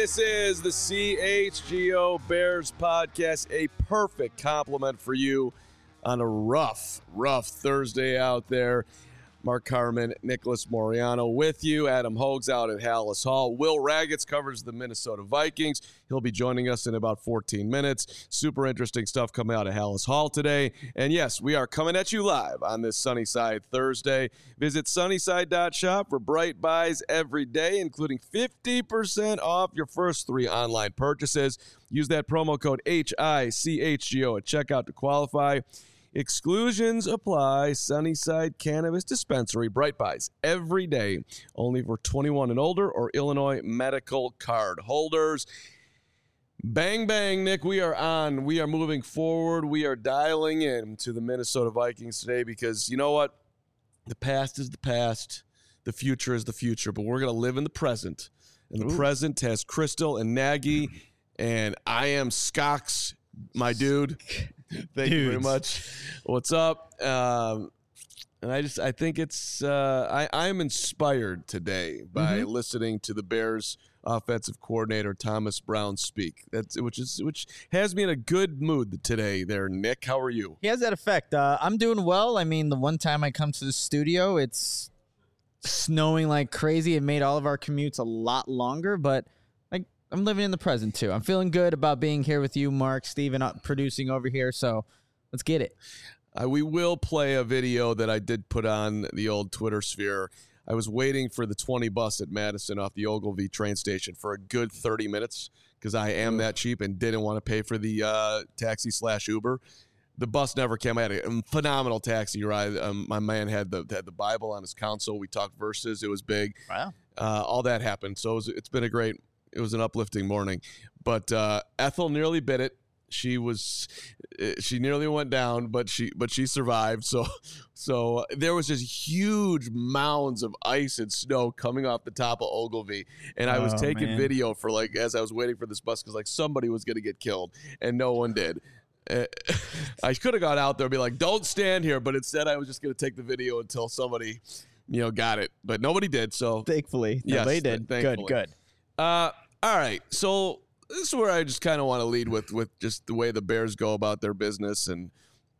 This is the CHGO Bears podcast, a perfect compliment for you on a rough Thursday out there. Mark Carman, Nicholas Moriano with you. Adam Hogue's out at Hallis Hall. Will Ragatz covers the Minnesota Vikings. He'll be joining us in about 14 minutes. Super interesting stuff coming out of Hallis Hall today. And yes, we are coming at you live on this Sunnyside Thursday. Visit sunnyside.shop for bright buys every day, including 50% off your first 3 online purchases. Use that promo code HICHGO at checkout to qualify. Exclusions apply. Sunnyside Cannabis Dispensary. Bright buys every day. Only for 21 and older or Illinois medical card holders. Bang, bang, Nick. We are on. We are moving forward. We are dialing in to the Minnesota Vikings today because you know what? The past is the past. The future is the future. But we're going to live in the present. And the present has Crystal and Nagy. And I am Skox, my dude. Thank you very much. What's up? And I think it's I'm inspired today by listening to the Bears offensive coordinator Thomas Brown speak. Which has me in a good mood today. There, Nick. How are you? He has that effect. I'm doing well. I mean, the one time I come to the studio, it's snowing like crazy. It made all of our commutes a lot longer, but I'm living in the present, too. I'm feeling good about being here with you, Mark, Steven, producing over here, so let's get it. We will play a video that I did put on the old Twitter sphere. I was waiting for the 20 bus at Madison off the Ogilvie train station for a good 30 minutes because I am that cheap and didn't want to pay for the taxi/Uber. The bus never came. I had a phenomenal taxi ride. My man had the Bible on his console. We talked verses. It was big. Wow. All that happened. So it's been it was an uplifting morning, but Ethel nearly bit it. She nearly went down, but she survived. So there was just huge mounds of ice and snow coming off the top of Ogilvie, and I was taking video for as I was waiting for this bus because somebody was going to get killed, and no one did. I could have gone out there and be like, "Don't stand here," but instead I was just going to take the video until somebody, got it. But nobody did. So thankfully, nobody did. Thankfully. Good. All right, so this is where I just kind of want to lead with just the way the Bears go about their business. And,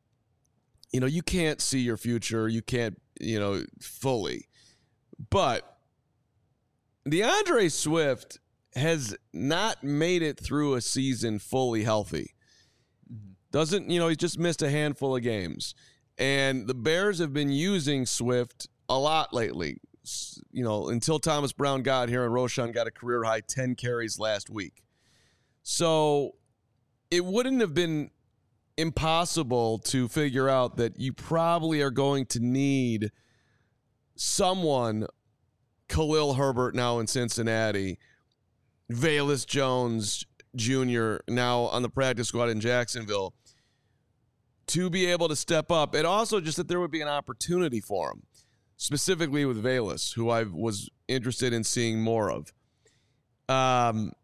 you can't see your future. You can't, fully. But DeAndre Swift has not made it through a season fully healthy. Doesn't, he's just missed a handful of games. And the Bears have been using Swift a lot lately. Until Thomas Brown got here and Roschon got a career-high 10 carries last week. So it wouldn't have been impossible to figure out that you probably are going to need someone, Khalil Herbert now in Cincinnati, Velus Jones Jr. now on the practice squad in Jacksonville, to be able to step up. And also just that there would be an opportunity for him. Specifically with Velus, who I was interested in seeing more of. And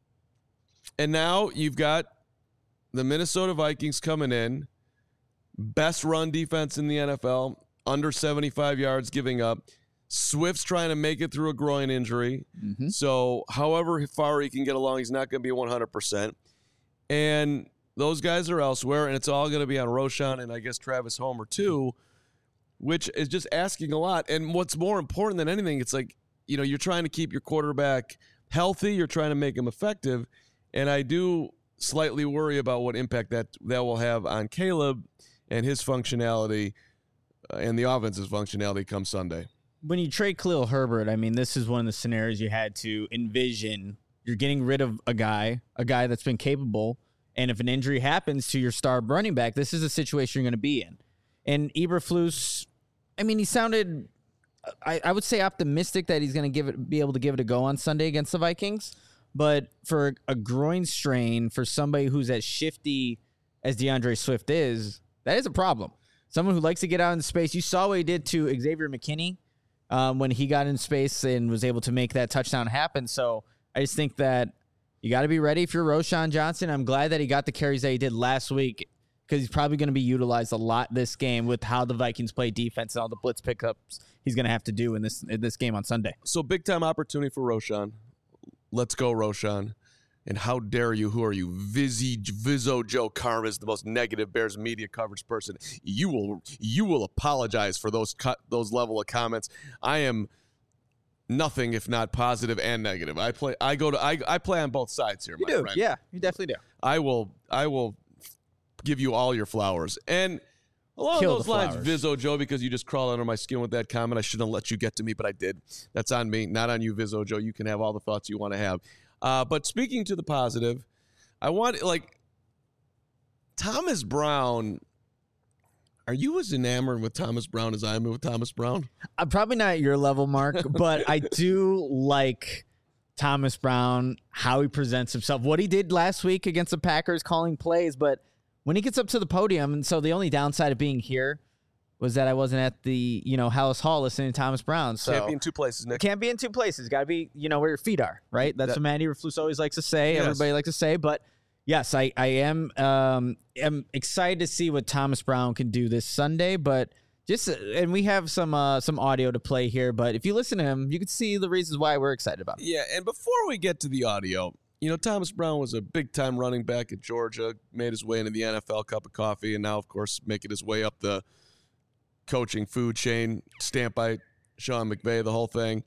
now you've got the Minnesota Vikings coming in. Best run defense in the NFL. Under 75 yards giving up. Swift's trying to make it through a groin injury. So however far he can get along, he's not going to be 100%. And those guys are elsewhere, and it's all going to be on Roschon and I guess Travis Homer too, which is just asking a lot. And what's more important than anything, it's you're trying to keep your quarterback healthy. You're trying to make him effective. And I do slightly worry about what impact that will have on Caleb and his functionality and the offense's functionality come Sunday. When you trade Khalil Herbert, I mean, this is one of the scenarios you had to envision. You're getting rid of a guy that's been capable. And if an injury happens to your star running back, this is a situation you're going to be in. And Eberflus, I mean, he sounded, I would say, optimistic that he's going to be able to give it a go on Sunday against the Vikings. But for a groin strain, for somebody who's as shifty as DeAndre Swift is, that is a problem. Someone who likes to get out in space. You saw what he did to Xavier McKinney when he got in space and was able to make that touchdown happen. So I just think that you got to be ready if you're Roschon Johnson. I'm glad that he got the carries that he did last week because he's probably going to be utilized a lot this game with how the Vikings play defense and all the blitz pickups he's going to have to do in this game on Sunday. So big-time opportunity for Roschon. let's go, Roshan. And how dare you? Who are you? Vizzo Joe Karma is the most negative Bears media coverage person. You will apologize for those level of comments. I am nothing if not positive and negative. I play on both sides here, my friend. Yeah, you definitely do. I will give you all your flowers. And along those lines, Vizzo Joe, because you just crawled under my skin with that comment, I shouldn't have let you get to me, but I did. That's on me, not on you, Vizzo Joe. You can have all the thoughts you want to have. But speaking to the positive, I want, Thomas Brown. Are you as enamored with Thomas Brown as I am with Thomas Brown? I'm probably not at your level, Mark, but I do like Thomas Brown, how he presents himself, what he did last week against the Packers, calling plays. But when he gets up to the podium, and so the only downside of being here was that I wasn't at the, Hallis Hall listening to Thomas Brown. So can't be in two places, Nick. Can't be in two places. Got to be, where your feet are, right? That's what Matt Eberflus always likes to say. Yes. Everybody likes to say. But yes, I am excited to see what Thomas Brown can do this Sunday. But and we have some audio to play here. But if you listen to him, you can see the reasons why we're excited about it. Yeah, and before we get to the audio, Thomas Brown was a big-time running back at Georgia, made his way into the NFL cup of coffee, and now, of course, making his way up the coaching food chain, stamped by Sean McVay, the whole thing.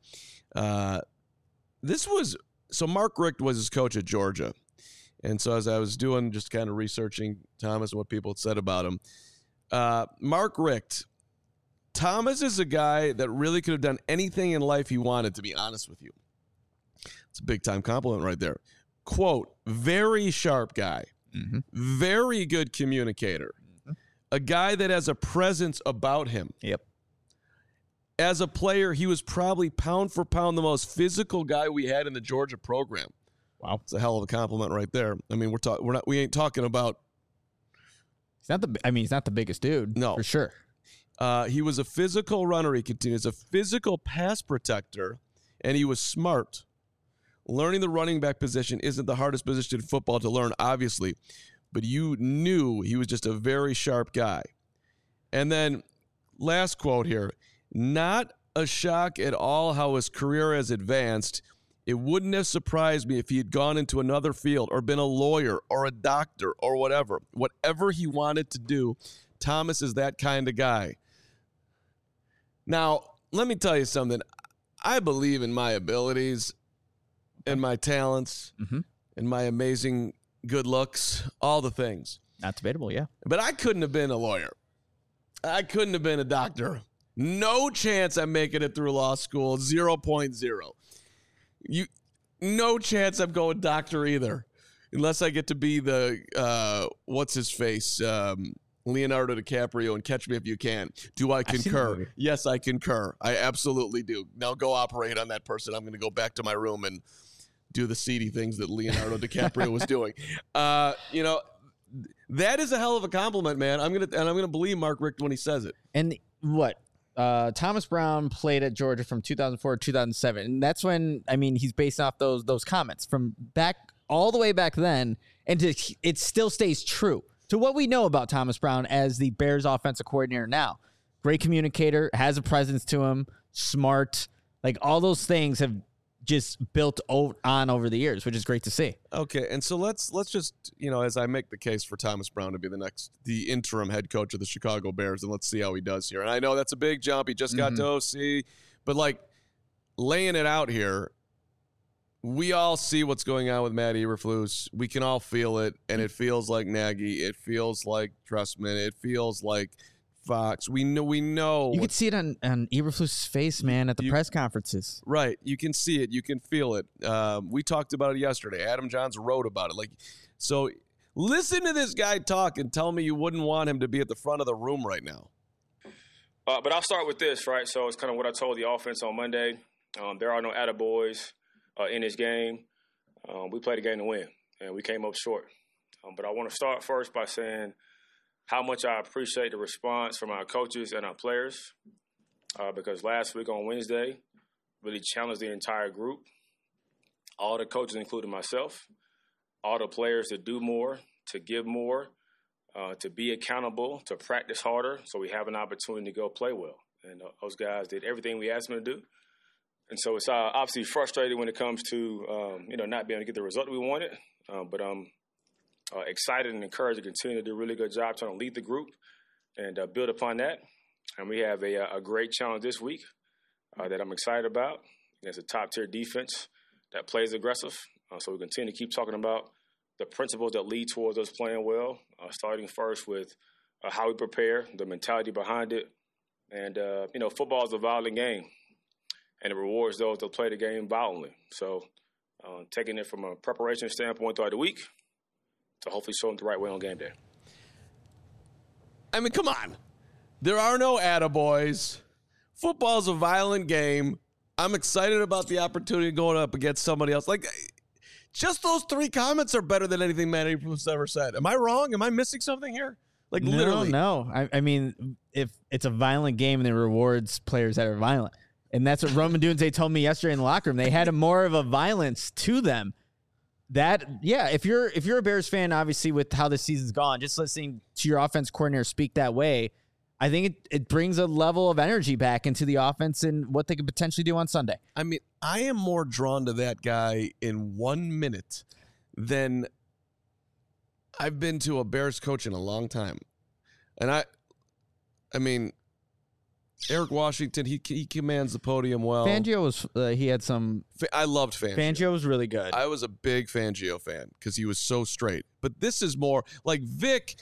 Mark Richt was his coach at Georgia. And so as I was doing, just kind of researching Thomas and what people had said about him, Mark Richt, Thomas is a guy that really could have done anything in life he wanted, to be honest with you. It's a big-time compliment right there. Quote, very sharp guy, very good communicator. A guy that has a presence about him. Yep. As a player, he was probably pound for pound the most physical guy we had in the Georgia program. Wow, it's a hell of a compliment right there. I mean, we ain't talking about. He's not the biggest dude. No, for sure. He was a physical runner. He continues a physical pass protector, and he was smart. Learning the running back position isn't the hardest position in football to learn, obviously. But you knew he was just a very sharp guy. And then last quote here, not a shock at all how his career has advanced. It wouldn't have surprised me if he had gone into another field or been a lawyer or a doctor or whatever. Whatever he wanted to do, Thomas is that kind of guy. Now, let me tell you something. I believe in my abilities and my talents and my amazing good looks, all the things. Not debatable, yeah. But I couldn't have been a lawyer. I couldn't have been a doctor. No chance I'm making it through law school, 0.0. No chance I'm going doctor either, unless I get to be the, what's-his-face, Leonardo DiCaprio and Catch Me If You Can. Do I concur? Yes, I concur. I absolutely do. Now go operate on that person. I'm going to go back to my room and do the seedy things that Leonardo DiCaprio was doing. That is a hell of a compliment, man. I'm gonna believe Mark Richt when he says it. And what? Thomas Brown played at Georgia from 2004 to 2007, and that's when he's based off those comments from back all the way back then, and it still stays true to what we know about Thomas Brown as the Bears offensive coordinator now. Great communicator, has a presence to him, smart, like all those things have just built on over the years, which is great to see. Okay, and so let's just, as I make the case for Thomas Brown to be the interim head coach of the Chicago Bears, and let's see how he does here. And I know that's a big jump. He just got to OC, but laying it out here, we all see what's going on with Matt Eberflus. We can all feel it, and it feels like Nagy. It feels like Trustman. It feels like Fox. We know. You can see it on Eberflus's face, man, at the press conferences. Right. You can see it. You can feel it. We talked about it yesterday. Adam Johns wrote about it. So listen to this guy talk and tell me you wouldn't want him to be at the front of the room right now. But I'll start with this, right? So it's kind of what I told the offense on Monday. There are no attaboys in this game. We played a game to win, and we came up short. But I want to start first by saying how much I appreciate the response from our coaches and our players, because last week on Wednesday really challenged the entire group, all the coaches, including myself, all the players to do more, to give more, to be accountable, to practice harder so we have an opportunity to go play well. And those guys did everything we asked them to do. And so it's obviously frustrating when it comes to, not being able to get the result we wanted. But I'm excited and encouraged to continue to do a really good job trying to lead the group and build upon that. And we have a great challenge this week that I'm excited about. It's a top-tier defense that plays aggressive. So we continue to keep talking about the principles that lead towards us playing well, starting first with how we prepare, the mentality behind it. And, football is a violent game, and it rewards those that play the game violently. So taking it from a preparation standpoint throughout the week to hopefully show them the right way on game day. I mean, come on. There are no attaboys. Football's a violent game. I'm excited about the opportunity going up against somebody else. Like, just those 3 comments are better than anything Matt Eberflus ever said. Am I wrong? Am I missing something here? Like, literally. No. I mean, if it's a violent game and it rewards players that are violent. And that's what Roman Dunze told me yesterday in the locker room. They had more of a violence to them. If you're a Bears fan, obviously with how this season's gone, just listening to your offense coordinator speak that way, I think it brings a level of energy back into the offense and what they could potentially do on Sunday. I mean, I am more drawn to that guy in 1 minute than I've been to a Bears coach in a long time. And I mean, Eric Washington, he commands the podium well. Fangio was he had some. I loved Fangio. Fangio was really good. I was a big Fangio fan because he was so straight. But this is more like Vic.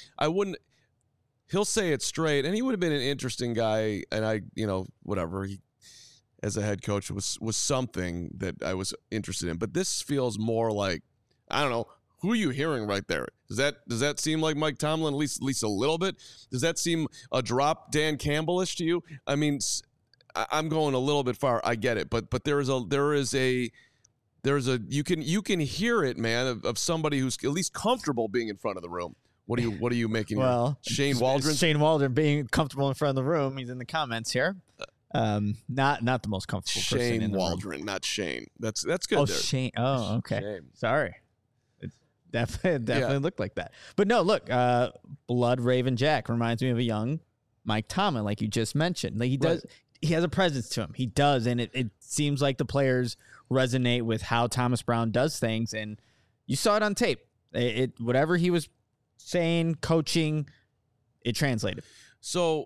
He'll say it straight, and he would have been an interesting guy. And whatever. He, as a head coach, was something that I was interested in. But this feels more like, I don't know. Who are you hearing right there? Does that seem like Mike Tomlin, at least a little bit? Does that seem a drop Dan Campbell-ish to you? I mean, I'm going a little bit far. I get it, but there is a you can hear it, man, of somebody who's at least comfortable being in front of the room. What are you making? Well, Shane Waldron. Shane Waldron being comfortable in front of the room. He's in the comments here. Not the most comfortable person in the room. Shane Waldron, not Shane. That's good. Oh, there. Shane. Oh, okay. Shame. Sorry. Definitely looked like that. But no, look, Blood Raven Jack reminds me of a young Mike Tomlin, like you just mentioned. Like he does, right. He has a presence to him. He does, and it seems like the players resonate with how Thomas Brown does things, and you saw it on tape. Whatever he was saying, coaching, it translated. So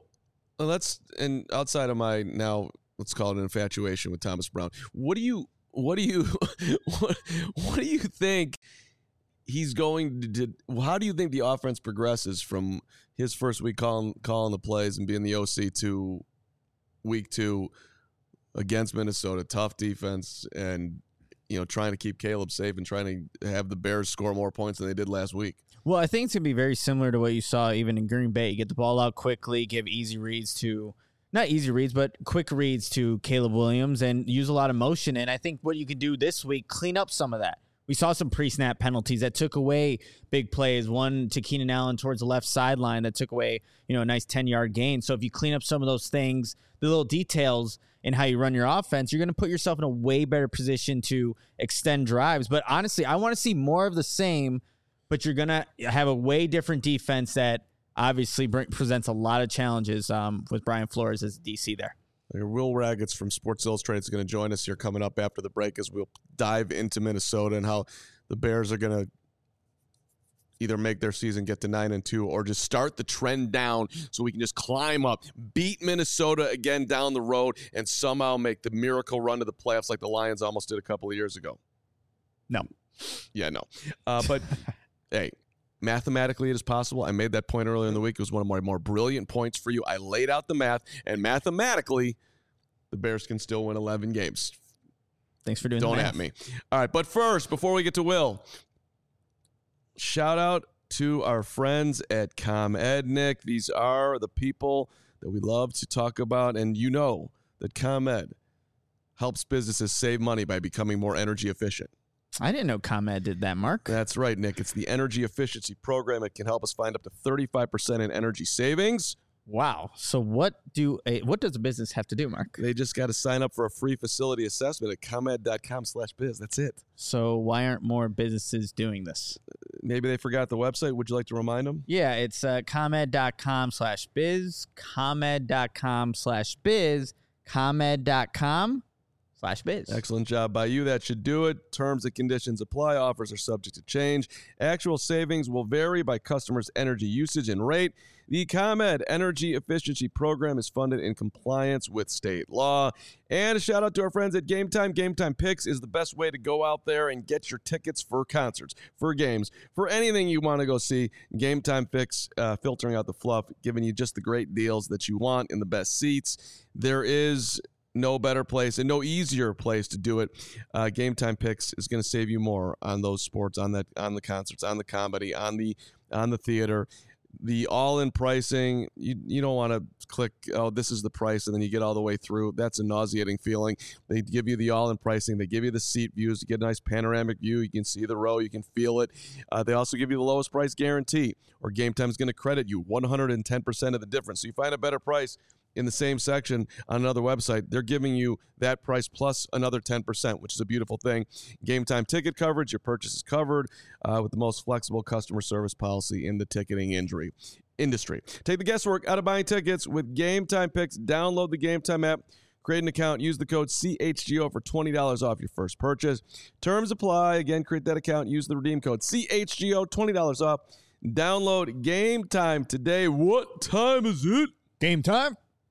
outside of my now, let's call it an infatuation with Thomas Brown. What do you think? He's going to. How do you think the offense progresses from his first week calling the plays and being the OC to week 2 against Minnesota, tough defense, and trying to keep Caleb safe and trying to have the Bears score more points than they did last week? Well, I think it's going to be very similar to what you saw even in Green Bay. You get the ball out quickly, give easy reads to. Not easy reads, but quick reads to Caleb Williams and use a lot of motion. And I think what you could do this week, clean up some of that. We saw some pre-snap penalties that took away big plays. One to Keenan Allen towards the left sideline that took away, a nice 10-yard gain. So if you clean up some of those things, the little details in how you run your offense, you're going to put yourself in a way better position to extend drives. But honestly, I want to see more of the same, but you're going to have a way different defense that obviously presents a lot of challenges with Brian Flores as DC there. Will Ragatz from Sports Illustrated is going to join us here coming up after the break as we'll dive into Minnesota and how the Bears are going to either make their season get to 9-2 or just start the trend down so we can just climb up, beat Minnesota again down the road, and somehow make the miracle run to the playoffs like the Lions almost did a couple of years ago. No. Yeah, no. But, hey, mathematically, it is possible. I made that point earlier in the week. It was one of my more brilliant points for you. I laid out the math, and mathematically, the Bears can still win 11 games. Thanks for doing that. Don't at me. All right, but first, before we get to Will, shout out to our friends at ComEd, Nick. These are the people that we love to talk about, and you know that ComEd helps businesses save money by becoming more energy efficient. I didn't know ComEd did that, Mark. That's right, Nick. It's the energy efficiency program. It can help us find up to 35% in energy savings. Wow. So what does a business have to do, Mark? They just got to sign up for a free facility assessment at comed.com/biz. That's it. So why aren't more businesses doing this? Maybe they forgot the website. Would you like to remind them? Yeah, it's comed.com/biz, comed.com/biz, comed.com/biz. BetOnline.ag/biz. Excellent job by you. That should do it. Terms and conditions apply. Offers are subject to change. Actual savings will vary by customers' energy usage and rate. The ComEd Energy Efficiency Program is funded in compliance with state law. And a shout out to our friends at Game Time. Game Time Picks is the best way to go out there and get your tickets for concerts, for games, for anything you want to go see. Game Time Picks, filtering out the fluff, giving you just the great deals that you want in the best seats. There is no better place and no easier place to do it. Game Time Picks is going to save you more on those sports, on the concerts, on the comedy, on the theater. The all-in pricing, you don't want to click, oh, this is the price, and then you get all the way through. That's a nauseating feeling. They give you the all-in pricing. They give you the seat views. You get a nice panoramic view. You can see the row. You can feel it. They also give you the lowest price guarantee, or Game Time is going to credit you 110% of the difference. So you find a better price in the same section on another website, they're giving you that price plus another 10%, which is a beautiful thing. Game Time ticket coverage, your purchase is covered with the most flexible customer service policy in the ticketing industry. Take the guesswork out of buying tickets with Game Time Picks. Download the Game Time app, create an account, use the code CHGO for $20 off your first purchase. Terms apply. Again, create that account, use the redeem code CHGO, $20 off. Download Game Time today. What time is it? Game time.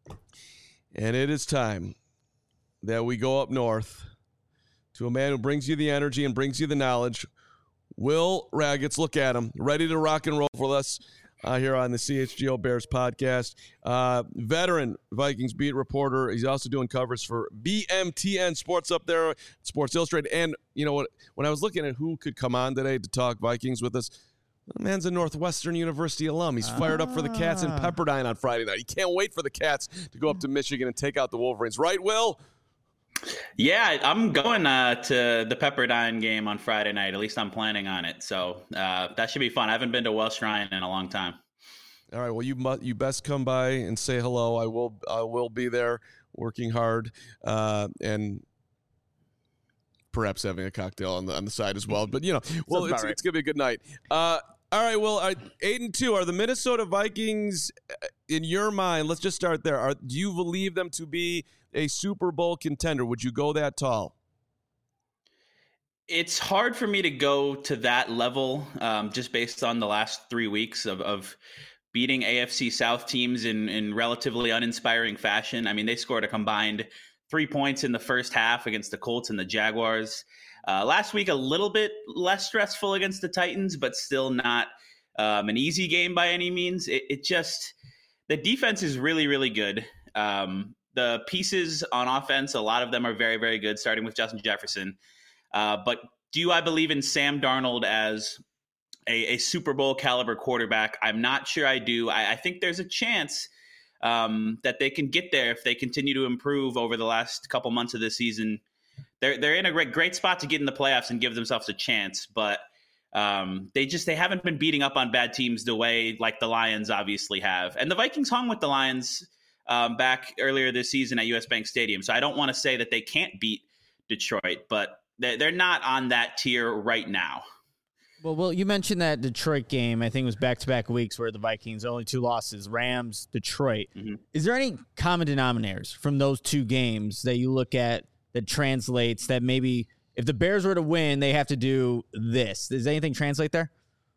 And it is time that we go up north to a man who brings you the energy and brings you the knowledge. Will Ragatz, look at him, ready to rock and roll for us here on the CHGO Bears podcast. Veteran Vikings beat reporter. He's also doing covers for BMTN Sports up there, Sports Illustrated. And you know what? When I was looking at who could come on today to talk Vikings with us, the man's a Northwestern University alum. He's fired up for the Cats in Pepperdine on Friday night. He can't wait for the Cats to go up to Michigan and take out the Wolverines. Right, Will? Yeah, I'm going to the Pepperdine game on Friday night. At least I'm planning on it. So that should be fun. I haven't been to Welsh Ryan in a long time. All right. Well, you best come by and say hello. I will be there working hard and perhaps having a cocktail on the side as well. But, well, it's going to be a good night. All right, well, 8-2. Are the Minnesota Vikings, in your mind, let's just start there. Do you believe them to be a Super Bowl contender? Would you go that tall? It's hard for me to go to that level just based on the last 3 weeks of beating AFC South teams in relatively uninspiring fashion. I mean, they scored a combined 3 points in the first half against the Colts and the Jaguars. Last week, a little bit less stressful against the Titans, but still not an easy game by any means. The defense is really, really good. The pieces on offense, a lot of them are very, very good, starting with Justin Jefferson. But do I believe in Sam Darnold as a Super Bowl caliber quarterback? I'm not sure I do. I think there's a chance that they can get there if they continue to improve over the last couple months of the season. They're in a great spot to get in the playoffs and give themselves a chance, but they haven't been beating up on bad teams the way like the Lions obviously have. And the Vikings hung with the Lions back earlier this season at US Bank Stadium. So I don't want to say that they can't beat Detroit, but they're not on that tier right now. Well, you mentioned that Detroit game. I think it was back-to-back weeks where the Vikings only 2 losses, Rams, Detroit. Mm-hmm. Is there any common denominators from those 2 games that you look at that translates that maybe if the Bears were to win, they have to do this? Does anything translate there?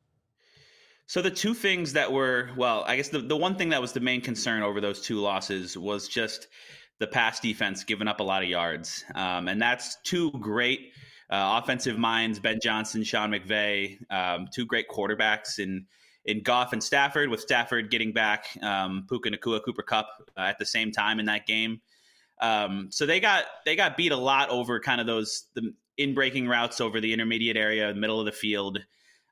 So the 2 things that were, well, I guess the one thing that was the main concern over those 2 losses was just the pass defense giving up a lot of yards. And that's 2 great offensive minds, Ben Johnson, Sean McVay, 2 great quarterbacks in Goff and Stafford, with Stafford getting back Puka Nacua, Cooper Kupp at the same time in that game. So they got beat a lot over kind of the in-breaking routes over the intermediate area, middle of the field.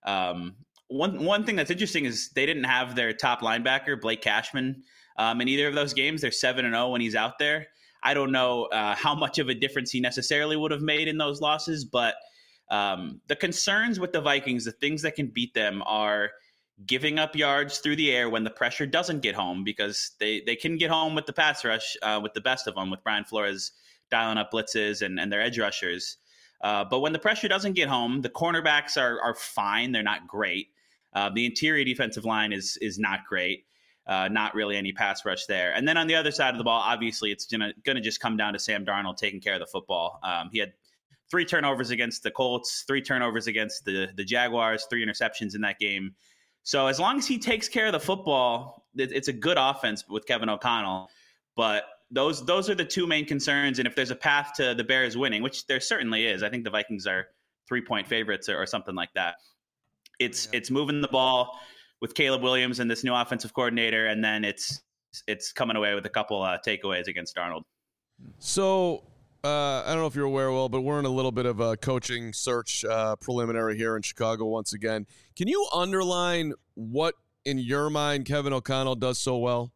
One thing that's interesting is they didn't have their top linebacker, Blake Cashman, in either of those games. They're 7-0 when he's out there. I don't know how much of a difference he necessarily would have made in those losses, but the concerns with the Vikings, the things that can beat them are giving up yards through the air when the pressure doesn't get home, because they can get home with the pass rush with the best of them, with Brian Flores dialing up blitzes and their edge rushers. But when the pressure doesn't get home, the cornerbacks are fine. They're not great. The interior defensive line is not great. Not really any pass rush there. And then on the other side of the ball, obviously it's going to just come down to Sam Darnold taking care of the football. He had 3 turnovers against the Colts, 3 turnovers against the Jaguars, 3 interceptions in that game. So as long as he takes care of the football, it's a good offense with Kevin O'Connell. But those are the 2 main concerns. And if there's a path to the Bears winning, which there certainly is, I think the Vikings are 3-point favorites or something like that. It's moving the ball with Caleb Williams and this new offensive coordinator, and then it's coming away with a couple takeaways against Darnold. So I don't know if you're aware, Will, but we're in a little bit of a coaching search preliminary here in Chicago once again. Can you underline what, in your mind, Kevin O'Connell does so well?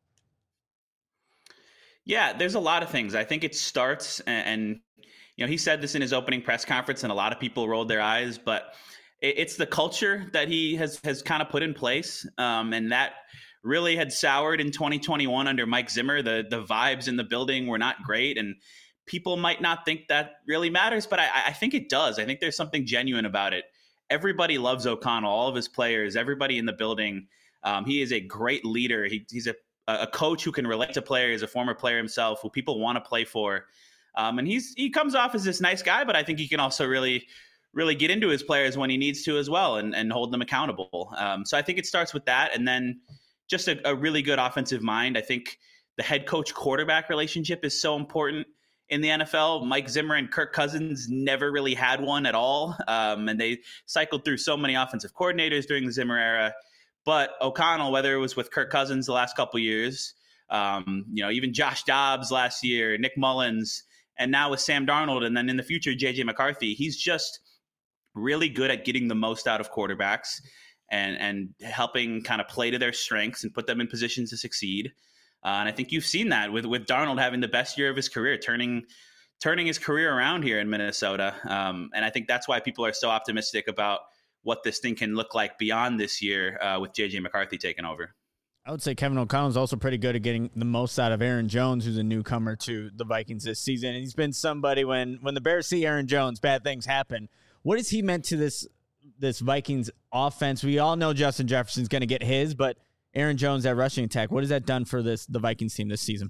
Yeah, there's a lot of things. I think it starts, and he said this in his opening press conference, and a lot of people rolled their eyes, but it's the culture that he has kind of put in place, and that really had soured in 2021 under Mike Zimmer. The vibes in the building were not great, and people might not think that really matters, but I think it does. I think there's something genuine about it. Everybody loves O'Connell, all of his players, everybody in the building. He is a great leader. He's a coach who can relate to players, a former player himself, who people want to play for. And he comes off as this nice guy, but I think he can also really get into his players when he needs to as well and hold them accountable. So I think it starts with that. And then just a really good offensive mind. I think the head coach quarterback relationship is so important in the NFL. Mike Zimmer and Kirk Cousins never really had one at all. And they cycled through so many offensive coordinators during the Zimmer era. But O'Connell, whether it was with Kirk Cousins the last couple of years, even Josh Dobbs last year, Nick Mullins, and now with Sam Darnold, and then in the future, J.J. McCarthy, he's just really good at getting the most out of quarterbacks and helping kind of play to their strengths and put them in positions to succeed. And I think you've seen that with Darnold having the best year of his career, turning his career around here in Minnesota. And I think that's why people are so optimistic about what this thing can look like beyond this year with J.J. McCarthy taking over. I would say Kevin O'Connell is also pretty good at getting the most out of Aaron Jones, who's a newcomer to the Vikings this season. And he's been somebody when the Bears see Aaron Jones, bad things happen. What has he meant to this Vikings offense? We all know Justin Jefferson's going to get his, but Aaron Jones, that rushing attack, what has that done for the Vikings team this season?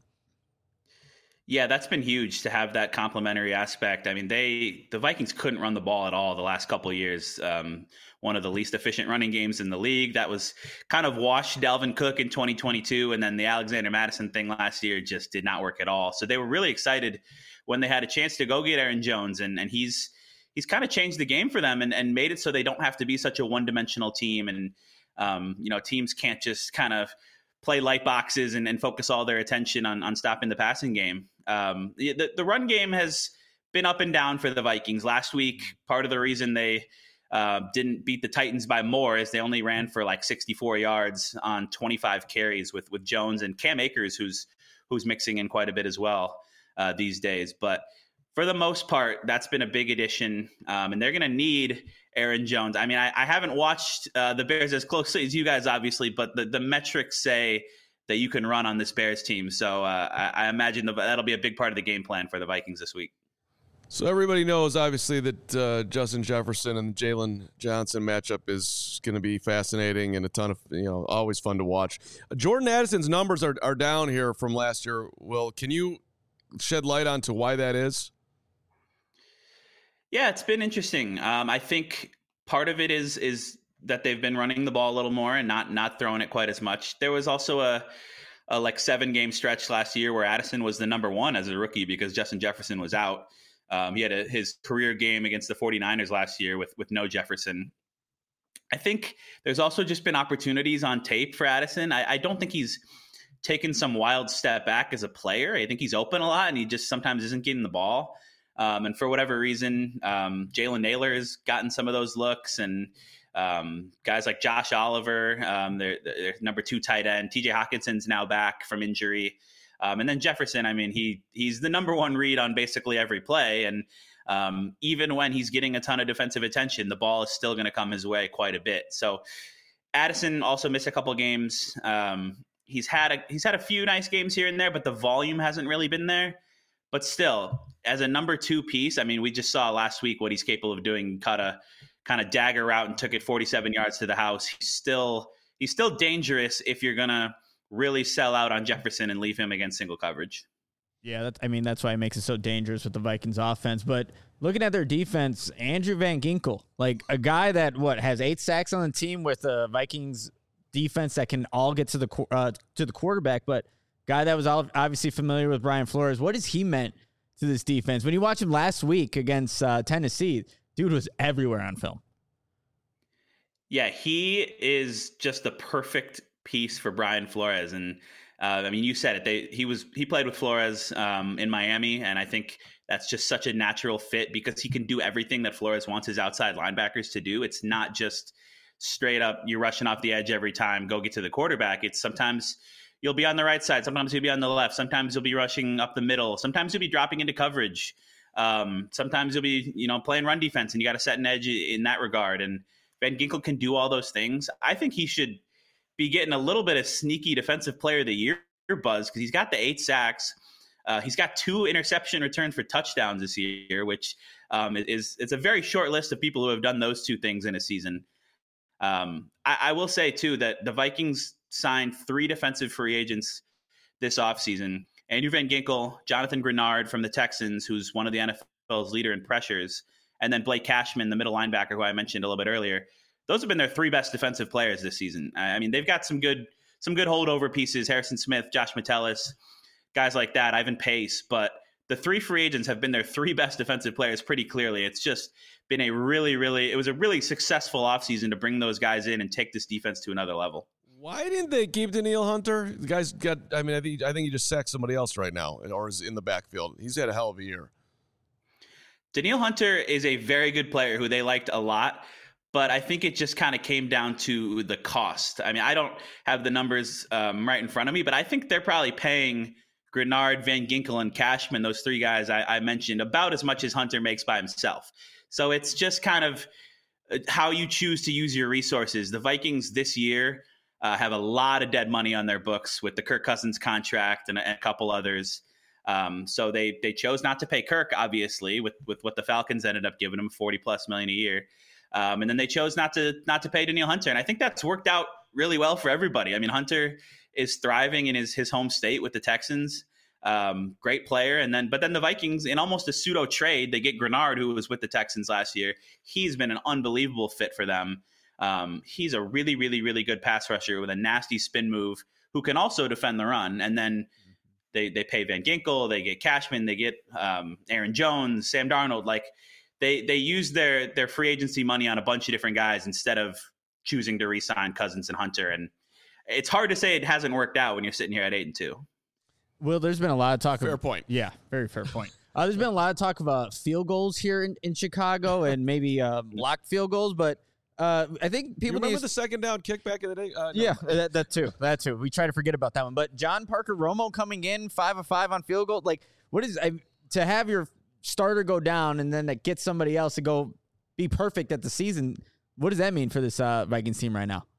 Yeah, that's been huge to have that complementary aspect. I mean, the Vikings couldn't run the ball at all the last couple of years. One of the least efficient running games in the league. That was kind of washed Dalvin Cook in 2022, and then the Alexander Mattison thing last year just did not work at all. So they were really excited when they had a chance to go get Aaron Jones, and he's kind of changed the game for them and made it so they don't have to be such a one-dimensional team. And teams can't just kind of play light boxes and focus all their attention on stopping the passing game. The run game has been up and down for the Vikings. Last week, part of the reason they didn't beat the Titans by more is they only ran for like 64 yards on 25 carries with Jones and Cam Akers, who's mixing in quite a bit as well these days. But for the most part, that's been a big addition, and they're going to need Aaron Jones. I mean, I haven't watched the Bears as closely as you guys, obviously, but the metrics say that you can run on this Bears team. So I imagine that'll be a big part of the game plan for the Vikings this week. So everybody knows, obviously, that Justin Jefferson and Jalen Johnson matchup is going to be fascinating and a ton of, always fun to watch. Jordan Addison's numbers are down here from last year. Will, can you shed light onto why that is? Yeah, it's been interesting. I think part of it is that they've been running the ball a little more and not throwing it quite as much. There was also a 7-game stretch last year where Addison was the number one as a rookie because Justin Jefferson was out. He had his career game against the 49ers last year with no Jefferson. I think there's also just been opportunities on tape for Addison. I don't think he's taken some wild step back as a player. I think he's open a lot and he just sometimes isn't getting the ball. And for whatever reason, Jalen Naylor has gotten some of those looks, and guys like Josh Oliver, their number 2 tight end, TJ Hawkinson's now back from injury. And then Jefferson, I mean, he's the number 1 read on basically every play. And even when he's getting a ton of defensive attention, the ball is still going to come his way quite a bit. So Addison also missed a couple games. He's had a few nice games here and there, but the volume hasn't really been there. But still, as a number 2 piece, I mean, we just saw last week what he's capable of doing. Cut a kind of dagger route and took it 47 yards to the house. He's still dangerous if you're gonna really sell out on Jefferson and leave him against single coverage. Yeah, that's why it makes it so dangerous with the Vikings offense. But looking at their defense, Andrew Van Ginkel, like a guy that has 8 sacks on the team with the Vikings defense that can all get to the quarterback, but guy that was obviously familiar with Brian Flores. What has he meant to this defense? When you watch him last week against Tennessee, dude was everywhere on film. Yeah, he is just the perfect piece for Brian Flores. And I mean, you said it. He played with Flores in Miami, and I think that's just such a natural fit because he can do everything that Flores wants his outside linebackers to do. It's not just straight up you're rushing off the edge every time, go get to the quarterback. It's sometimes you'll be on the right side, sometimes you'll be on the left, sometimes you'll be rushing up the middle, sometimes you'll be dropping into coverage, sometimes you'll be playing run defense, and you got to set an edge in that regard. And Van Ginkel can do all those things. I think he should be getting a little bit of sneaky defensive player of the year buzz because he's got the 8 sacks. He's got 2 interception returns for touchdowns this year, which it's a very short list of people who have done those 2 things in a season. I will say, too, that the Vikings signed 3 defensive free agents this offseason. Andrew Van Ginkel, Jonathan Grenard from the Texans, who's one of the NFL's leader in pressures, and then Blake Cashman, the middle linebacker, who I mentioned a little bit earlier. Those have been their 3 best defensive players this season. I mean, they've got some good holdover pieces, Harrison Smith, Josh Metellus, guys like that, Ivan Pace. But the 3 free agents have been their 3 best defensive players pretty clearly. It's just been it was a really successful offseason to bring those guys in and take this defense to another level. Why didn't they keep Danielle Hunter? The guy's got, I think he just sacked somebody else right now or is in the backfield. He's had a hell of a year. Danielle Hunter is a very good player who they liked a lot, but I think it just kind of came down to the cost. I mean, I don't have the numbers right in front of me, but I think they're probably paying Grenard, Van Ginkel, and Cashman, those 3 guys I mentioned, about as much as Hunter makes by himself. So it's just kind of how you choose to use your resources. The Vikings this year have a lot of dead money on their books with the Kirk Cousins contract and a couple others. So they chose not to pay Kirk, obviously, with what the Falcons ended up giving him, $40+ million a year. And then they chose not to pay Danielle Hunter. And I think that's worked out really well for everybody. I mean, Hunter is thriving in his home state with the Texans. Great player. But then the Vikings, in almost a pseudo trade, they get Grenard, who was with the Texans last year. He's been an unbelievable fit for them. He's a really, really, really good pass rusher with a nasty spin move who can also defend the run. And then they pay Van Ginkel, they get Cashman, they get Aaron Jones, Sam Darnold. Like they use their free agency money on a bunch of different guys instead of choosing to re-sign Cousins and Hunter. And it's hard to say it hasn't worked out when you're sitting here at 8-2. Well, there's been a lot of talk. Fair point. Yeah, very fair point. There's been a lot of talk about field goals here in Chicago and maybe blocked field goals, but I think people remember the second down kick back in the day. No. Yeah, that too. We try to forget about that one. But John Parker Romo coming in 5 of 5 on field goal. Like, what is to have your starter go down and then get somebody else to go be perfect at the season? What does that mean for this Vikings team right now?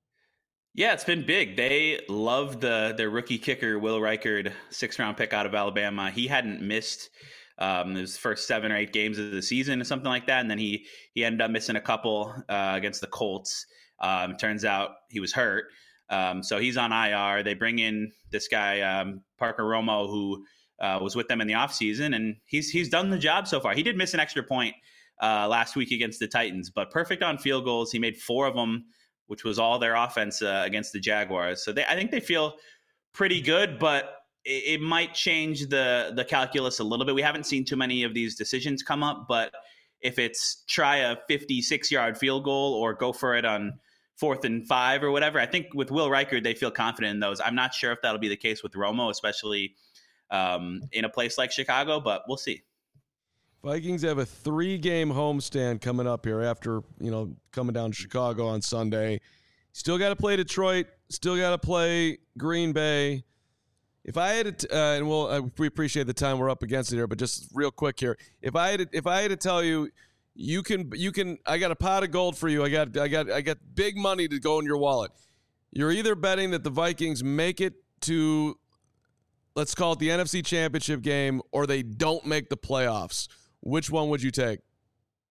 Yeah, it's been big. They love their rookie kicker, Will Reichard, 6th-round pick out of Alabama. He hadn't missed his first 7 or 8 games of the season or something like that, and then he ended up missing a couple against the Colts. Turns out he was hurt, so he's on IR. They bring in this guy, Parker Romo, who was with them in the offseason, and he's done the job so far. He did miss an extra point last week against the Titans, but perfect on field goals. He made 4 of them, which was all their offense against the Jaguars. So I think they feel pretty good, but it might change the calculus a little bit. We haven't seen too many of these decisions come up, but if it's try a 56-yard field goal or go for it on 4th and 5 or whatever, I think with Will Reichard, they feel confident in those. I'm not sure if that'll be the case with Romo, especially in a place like Chicago, but we'll see. Vikings have a 3-game homestand coming up here after, coming down to Chicago on Sunday. Still got to play Detroit. Still got to play Green Bay. If I had to, we appreciate the time we're up against it here, but just real quick here. If I had to tell you, you can. I got a pot of gold for you. I got big money to go in your wallet. You're either betting that the Vikings make it to, let's call it the NFC Championship game, or they don't make the playoffs. Which one would you take?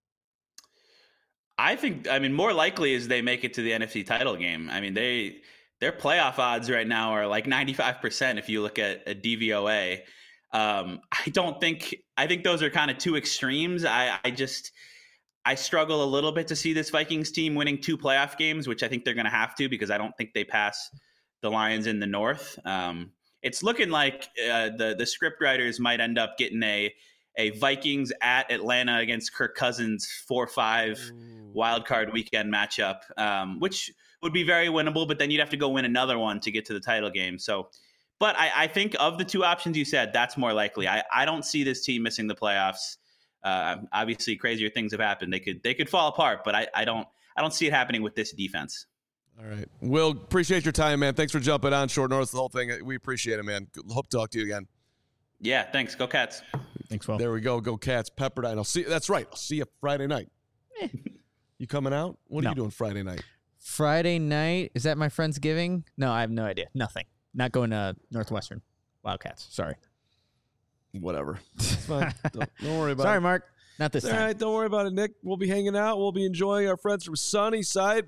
I think, more likely is they make it to the NFC title game. I mean, their playoff odds right now are like 95% if you look at a DVOA. I think those are kind of two extremes. I struggle a little bit to see this Vikings team winning 2 playoff games, which I think they're going to have to, because I don't think they pass the Lions in the North. It's looking like the script writers might end up getting a Vikings at Atlanta against Kirk Cousins 4-5 wild card weekend matchup, which would be very winnable, but then you'd have to go win another one to get to the title game. So, but I think of the 2 options you said, that's more likely. I don't see this team missing the playoffs. Obviously, crazier things have happened. They could fall apart, but I don't see it happening with this defense. All right. Will, appreciate your time, man. Thanks for jumping on Short North, the whole thing. We appreciate it, man. Hope to talk to you again. Yeah, thanks. Go Cats. Thanks, Will. There we go. Go Cats. Pepperdine. That's right. I'll see you Friday night. You coming out? What are you doing Friday night? Friday night? Is that my Friendsgiving? No, I have no idea. Nothing. Not going to Northwestern Wildcats. Sorry. Whatever. It's fine. Don't worry about it. Sorry, Mark. Not this time. All right. Don't worry about it, Nick. We'll be hanging out. We'll be enjoying our friends from Sunnyside.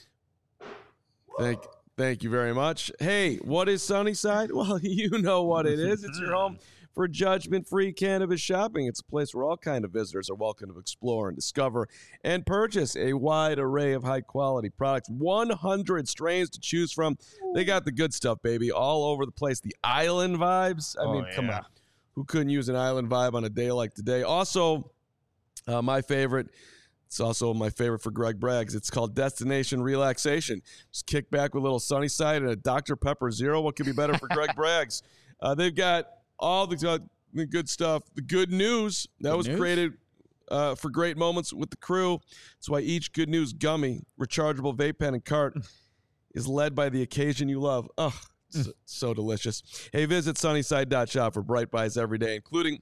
Thank you very much. Hey, what is Sunnyside? Well, you know what it is. It's your home for judgment-free cannabis shopping. It's a place where all kinds of visitors are welcome to explore and discover and purchase a wide array of high-quality products. 100 strains to choose from. They got the good stuff, baby, all over the place. The island vibes. I mean, come on. Who couldn't use an island vibe on a day like today? Also, my favorite. It's also my favorite for Greg Braggs. It's called Destination Relaxation. Just kick back with a little Sunnyside and a Dr. Pepper Zero. What could be better for Greg Braggs? They've got all the good stuff. The good news that was created for great moments with the crew. That's why each Good News gummy, rechargeable vape pen, and cart is led by the occasion you love. Oh, so delicious. Hey, visit Sunnyside.shop for Bright Buys every day, including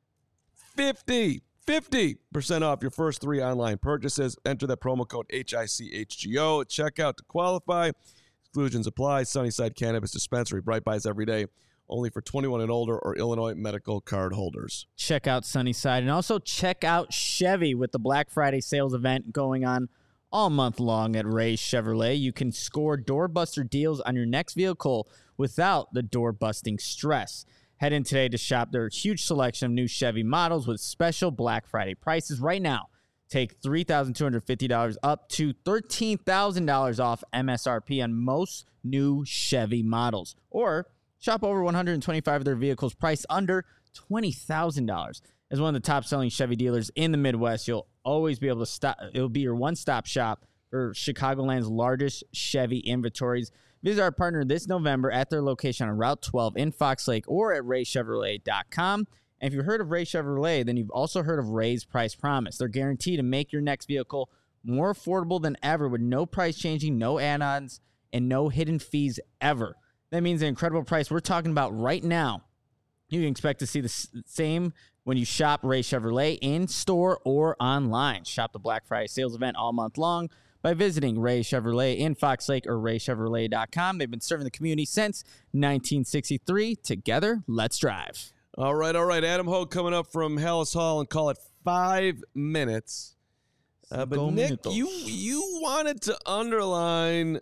50% off your first 3 online purchases. Enter that promo code HICHGO at checkout to qualify. Exclusions apply. Sunnyside Cannabis Dispensary. Bright Buys every day. Only for 21 and older or Illinois medical card holders. Check out Sunnyside, and also check out Chevy with the Black Friday sales event going on all month long at Ray Chevrolet. You can score doorbuster deals on your next vehicle without the door-busting stress. Head in today to shop their huge selection of new Chevy models with special Black Friday prices. Right now, take $3,250 up to $13,000 off MSRP on most new Chevy models. Or shop over 125 of their vehicles priced under $20,000. As one of the top-selling Chevy dealers in the Midwest, you'll always be able to stop. It'll be your one-stop shop for Chicagoland's largest Chevy inventories. Visit our partner this November at their location on Route 12 in Fox Lake or at raychevrolet.com. And if you've heard of Ray Chevrolet, then you've also heard of Ray's Price Promise. They're guaranteed to make your next vehicle more affordable than ever with no price changing, no add-ons, and no hidden fees ever. That means an incredible price we're talking about right now. You can expect to see the same when you shop Ray Chevrolet in store or online. Shop the Black Friday sales event all month long by visiting Ray Chevrolet in Fox Lake or raychevrolet.com. They've been serving the community since 1963. Together, let's drive. All right. Adam Hogue coming up from Hallis Hall and call it 5 minutes. But Nick, you wanted to underline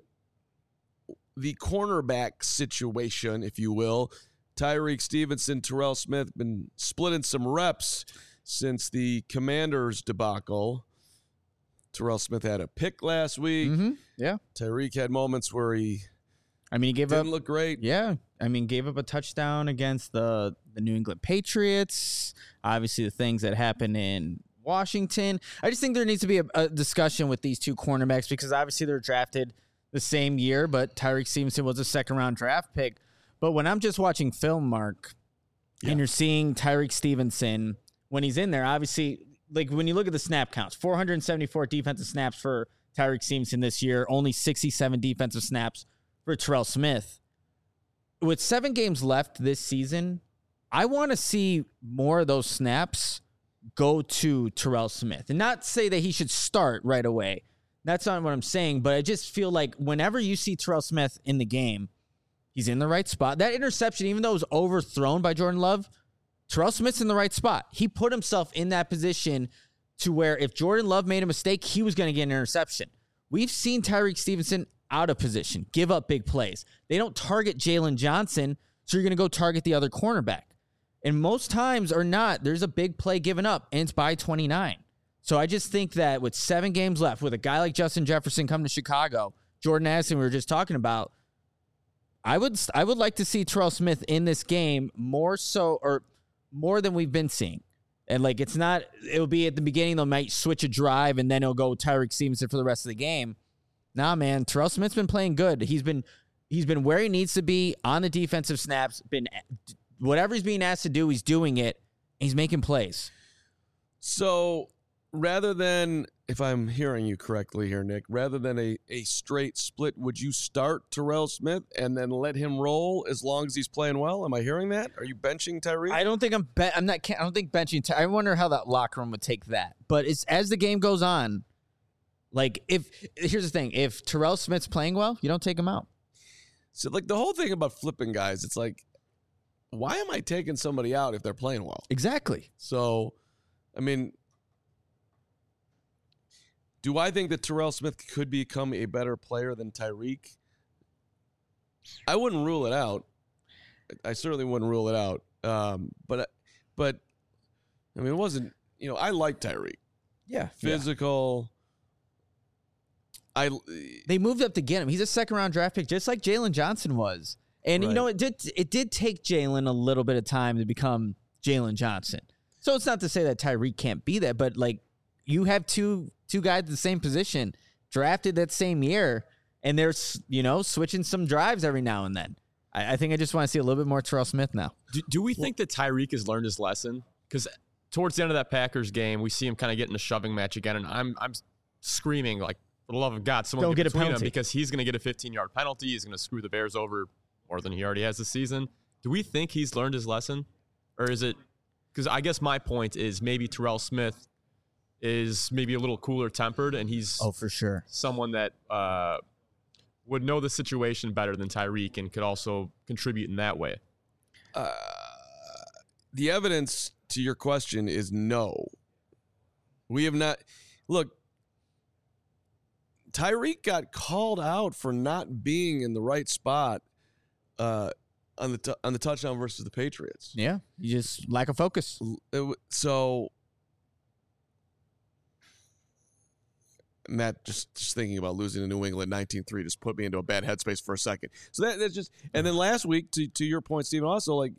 the cornerback situation, if you will. Tyreek Stevenson, Terrell Smith been splitting some reps since the Commanders debacle. Terrell Smith had a pick last week. Mm-hmm. Yeah. Tyreek had moments where he didn't look great. Yeah. Gave up a touchdown against the New England Patriots. Obviously, the things that happened in Washington. I just think there needs to be a discussion with these two cornerbacks because obviously they're drafted the same year, but Tyreek Stevenson was a second-round draft pick. But when I'm just watching film, Mark, and you're seeing Tyreek Stevenson, when he's in there, obviously, like when you look at the snap counts, 474 defensive snaps for Tyreek Stevenson this year, only 67 defensive snaps for Terrell Smith. With 7 games left this season, I want to see more of those snaps go to Terrell Smith. And not say that he should start right away. That's not what I'm saying, but I just feel like whenever you see Terrell Smith in the game, he's in the right spot. That interception, even though it was overthrown by Jordan Love, Terrell Smith's in the right spot. He put himself in that position to where if Jordan Love made a mistake, he was going to get an interception. We've seen Tyreek Stevenson out of position, give up big plays. They don't target Jalen Johnson, so you're going to go target the other cornerback. And most times or not, there's a big play given up, and it's by 29. So I just think that with 7 games left, with a guy like Justin Jefferson coming to Chicago, Jordan Addison we were just talking about, I would like to see Terrell Smith in this game more than we've been seeing. And like it'll be at the beginning, they might switch a drive and then it'll go Tyreek Stevenson for the rest of the game. Nah, man, Terrell Smith's been playing good. He's been where he needs to be on the defensive snaps. Whatever he's being asked to do, he's doing it. He's making plays. So rather than, if I'm hearing you correctly here, Nick, rather than a straight split, would you start Terrell Smith and then let him roll as long as he's playing well? Am I hearing that? Are you benching Tyreek? I don't think I don't think benching. I wonder how that locker room would take that. But as the game goes on, like here's the thing: if Terrell Smith's playing well, you don't take him out. So like the whole thing about flipping guys, it's like, why am I taking somebody out if they're playing well? Exactly. So, I mean, do I think that Terrell Smith could become a better player than Tyreek? I wouldn't rule it out. I certainly wouldn't rule it out. But I mean, it wasn't, I like Tyreek. Yeah. Physical. They moved up to get him. He's a second-round draft pick, just like Jalen Johnson was. And, right. it did take Jalen a little bit of time to become Jalen Johnson. So it's not to say that Tyreek can't be that, but, like, you have two guys at the same position drafted that same year, and they're, switching some drives every now and then. I think I just want to see a little bit more Terrell Smith now. Do we think that Tyreek has learned his lesson? Because towards the end of that Packers game, we see him kind of get in a shoving match again, and I'm screaming, like, for the love of God, someone don't get get a between penalty him, because he's going to get a 15-yard penalty. He's going to screw the Bears over more than he already has this season. Do we think he's learned his lesson? Or is it – because I guess my point is maybe Terrell Smith is maybe a little cooler tempered, and he's for sure someone that would know the situation better than Tyreek and could also contribute in that way. The evidence to your question is no. We have not – look, Tyreek got called out for not being in the right spot on the touchdown versus the Patriots. Yeah, you just lack of focus. So, Matt, just thinking about losing to New England 19-3 just put me into a bad headspace for a second. So that's just – and then last week, to your point, Stephen, also, like,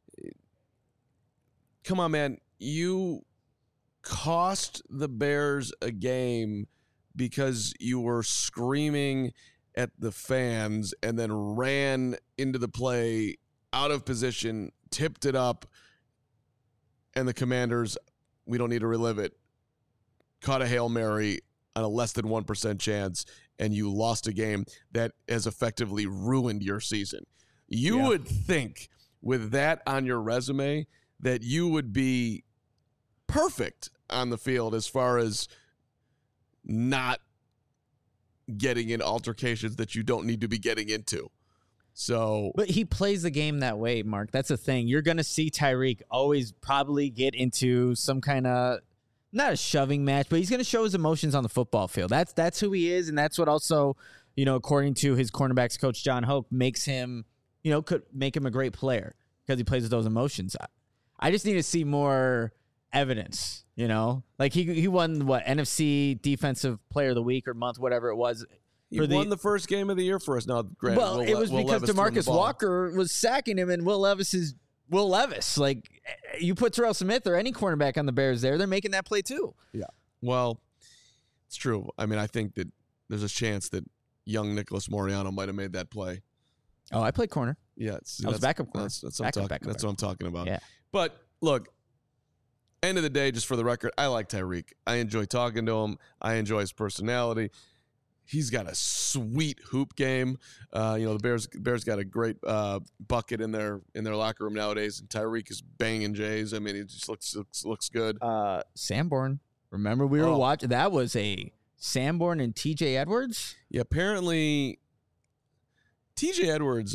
come on, man. You cost the Bears a game because you were screaming at the fans and then ran into the play out of position, tipped it up, and the Commanders, we don't need to relive it, caught a Hail Mary on a less than 1% chance, and you lost a game that has effectively ruined your season. You would think with that on your resume that you would be perfect on the field as far as not getting in altercations that you don't need to be getting into. So, but he plays the game that way, Mark. That's the thing. You're going to see Tyreek always probably get into some kind of, not a shoving match, but he's going to show his emotions on the football field. That's who he is, and that's what also, according to his cornerbacks coach John Hoke, makes him, could make him a great player because he plays with those emotions. I just need to see more evidence, like he won NFC Defensive Player of the Week or month, whatever it was. He won the first game of the year for us. Now, granted, well, it was because DeMarcus Walker was sacking him, and Will Levis is Will Levis. Like, you put Terrell Smith or any cornerback on the Bears there, they're making that play too. Yeah. Well, it's true. I mean, I think that there's a chance that young Nicholas Moreano might have made that play. Oh, I played corner. Yeah, I was backup corner. That's what I'm talking about. Yeah. But look, end of the day, just for the record, I like Tyreek. I enjoy talking to him. I enjoy his personality. He's got a sweet hoop game. The Bears got a great bucket in their locker room nowadays, and Tyreek is banging Jays. I mean, it just looks good. Sanborn. Remember we were watching? That was a Sanborn and T.J. Edwards. Yeah, apparently T.J. Edwards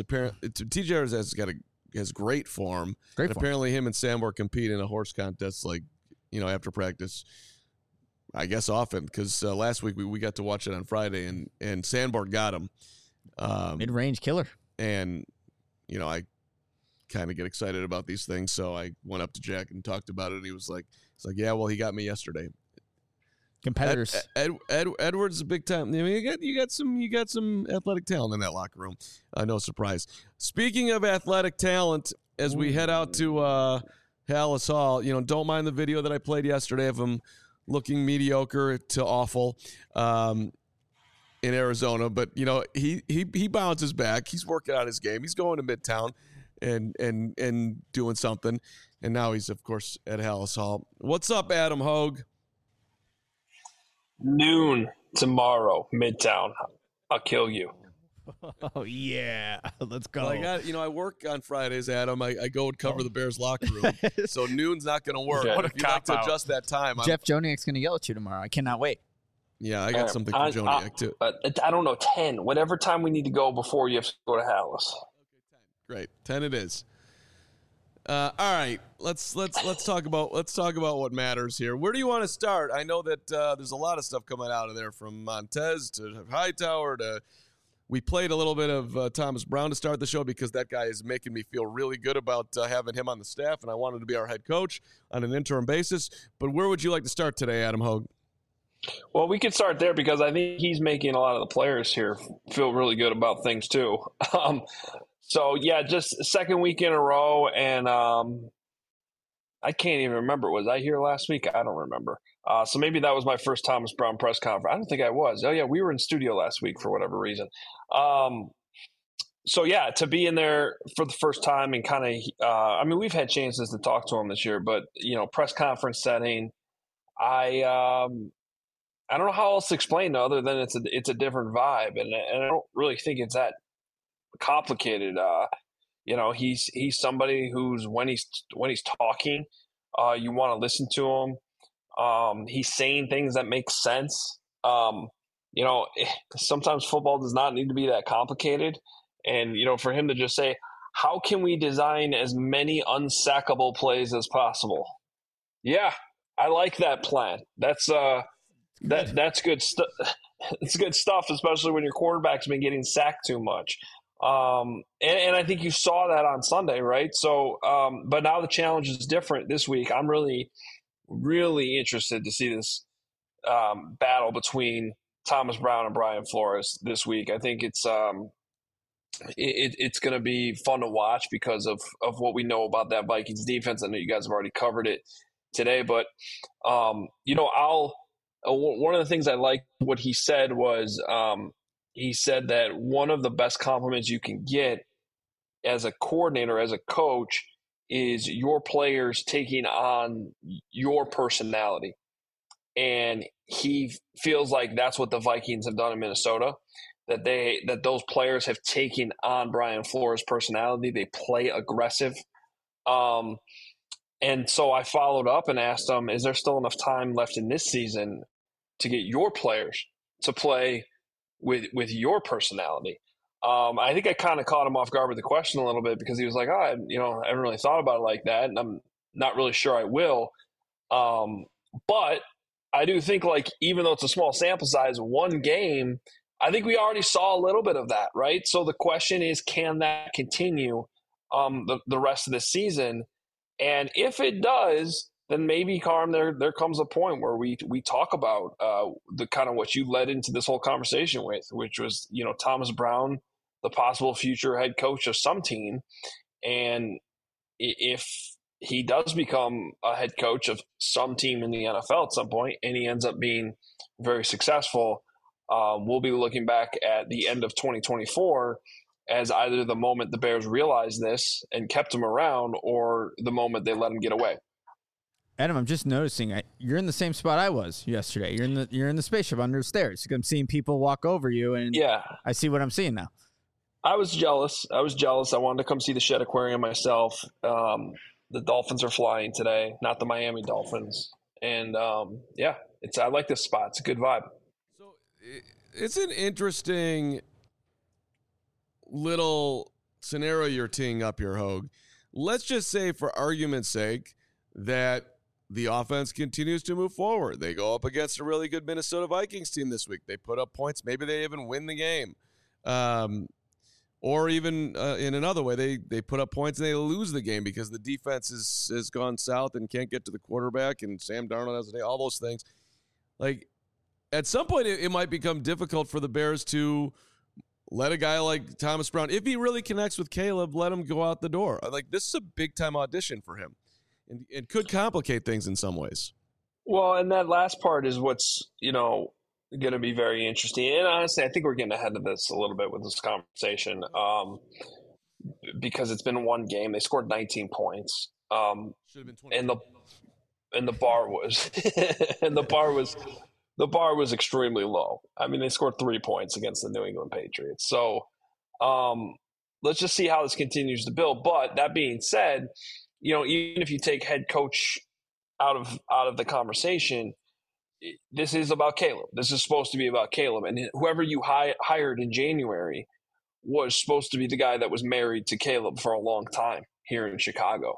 has great form. Great form. Apparently, him and Sanborn compete in a horse contest, after practice. I guess often, because last week we got to watch it on Friday, and Sandborn got him. Mid-range killer. And, I kind of get excited about these things, so I went up to Jack and talked about it, and he's like, yeah, well, he got me yesterday. Competitors. Edwards is a big time. I mean, you got some athletic talent in that locker room. No surprise. Speaking of athletic talent, as we head out to Halas Hall, don't mind the video that I played yesterday of him looking mediocre to awful in Arizona, but he bounces back. He's working out his game. He's going to Midtown and doing something, and now he's of course at Halas Hall. What's up, Adam Hogue? Noon tomorrow, Midtown. I'll kill you. Oh yeah, let's go. Well, I work on Fridays, Adam. I go and cover the Bears locker room, so noon's not going to work. Okay. But if you'd like to adjust that time, Jeff Joniak's going to yell at you tomorrow. I cannot wait. Yeah, I got something for Joniak too. I don't know, 10. Whatever time we need to go before you have to go to Halas. Great, 10 it is. All right, let's talk about what matters here. Where do you want to start? I know that there's a lot of stuff coming out of there, from Montez to Hightower to. We played a little bit of Thomas Brown to start the show because that guy is making me feel really good about having him on the staff, and I wanted to be our head coach on an interim basis. But where would you like to start today, Adam Hogue? Well, we could start there because I think he's making a lot of the players here feel really good about things too. So, yeah, just second week in a row, and I can't even remember. Was I here last week? I don't remember. So maybe that was my first Thomas Brown press conference. I don't think I was. Oh, yeah, we were in studio last week for whatever reason. So, yeah, to be in there for the first time and kind of we've had chances to talk to him this year, but, press conference setting, I don't know how else to explain it other than it's a different vibe, and I don't really think it's that complicated. He's somebody who's when he's talking, you want to listen to him. He's saying things that make sense. Sometimes football does not need to be that complicated, and for him to just say, how can we design as many unsackable plays as possible? Yeah, I like that plan. That's good stuff. It's good stuff, especially when your quarterback's been getting sacked too much. And I think you saw that on Sunday, right? So, but now the challenge is different this week. I'm really, really interested to see this battle between Thomas Brown and Brian Flores this week. I think it's going to be fun to watch because of what we know about that Vikings defense. I know you guys have already covered it today, but one of the things I liked what he said was he said that one of the best compliments you can get as a coordinator, as a coach, is your players taking on your personality. And he feels like that's what the Vikings have done in Minnesota, that those players have taken on Brian Flores' personality. They play aggressive. And so I followed up and asked him, is there still enough time left in this season to get your players to play with your personality? I think I kind of caught him off guard with the question a little bit because he was like, I haven't really thought about it like that, and I'm not really sure I will. But I do think, even though it's a small sample size, one game, I think we already saw a little bit of that, right? So the question is, can that continue the rest of the season? And if it does, then maybe, Carm, there comes a point where we talk about the kind of what you led into this whole conversation with, which was, Thomas Brown, the possible future head coach of some team. And if he does become a head coach of some team in the NFL at some point, and he ends up being very successful, we'll be looking back at the end of 2024 as either the moment the Bears realized this and kept him around, or the moment they let him get away. Adam, I'm just noticing you're in the same spot I was yesterday. You're in the spaceship under the stairs. I'm seeing people walk over you, and yeah, I see what I'm seeing now. I was jealous. I wanted to come see the Shed Aquarium myself. The Dolphins are flying today, not the Miami Dolphins. And I like this spot. It's a good vibe. So it's an interesting little scenario you're teeing up here, Hogue. Let's just say, for argument's sake, that the offense continues to move forward. They go up against a really good Minnesota Vikings team this week. They put up points. Maybe they even win the game. Or even in another way, they put up points and they lose the game because the defense has gone south and can't get to the quarterback, and Sam Darnold has a day, all those things. Like, at some point, it might become difficult for the Bears to let a guy like Thomas Brown, if he really connects with Caleb, let him go out the door. Like, this is a big-time audition for him, and it could complicate things in some ways. Well, and that last part is what's, going to be very interesting. And honestly, I think we're getting ahead of this a little bit with this conversation because it's been one game. They scored 19 points. Should have been 20. And the bar was the bar was extremely low. I mean, they scored 3 points against the New England Patriots. So let's just see how this continues to build. But that being said, even if you take head coach out of the conversation, this is about Caleb. This is supposed to be about Caleb. And whoever you hired in January was supposed to be the guy that was married to Caleb for a long time here in Chicago.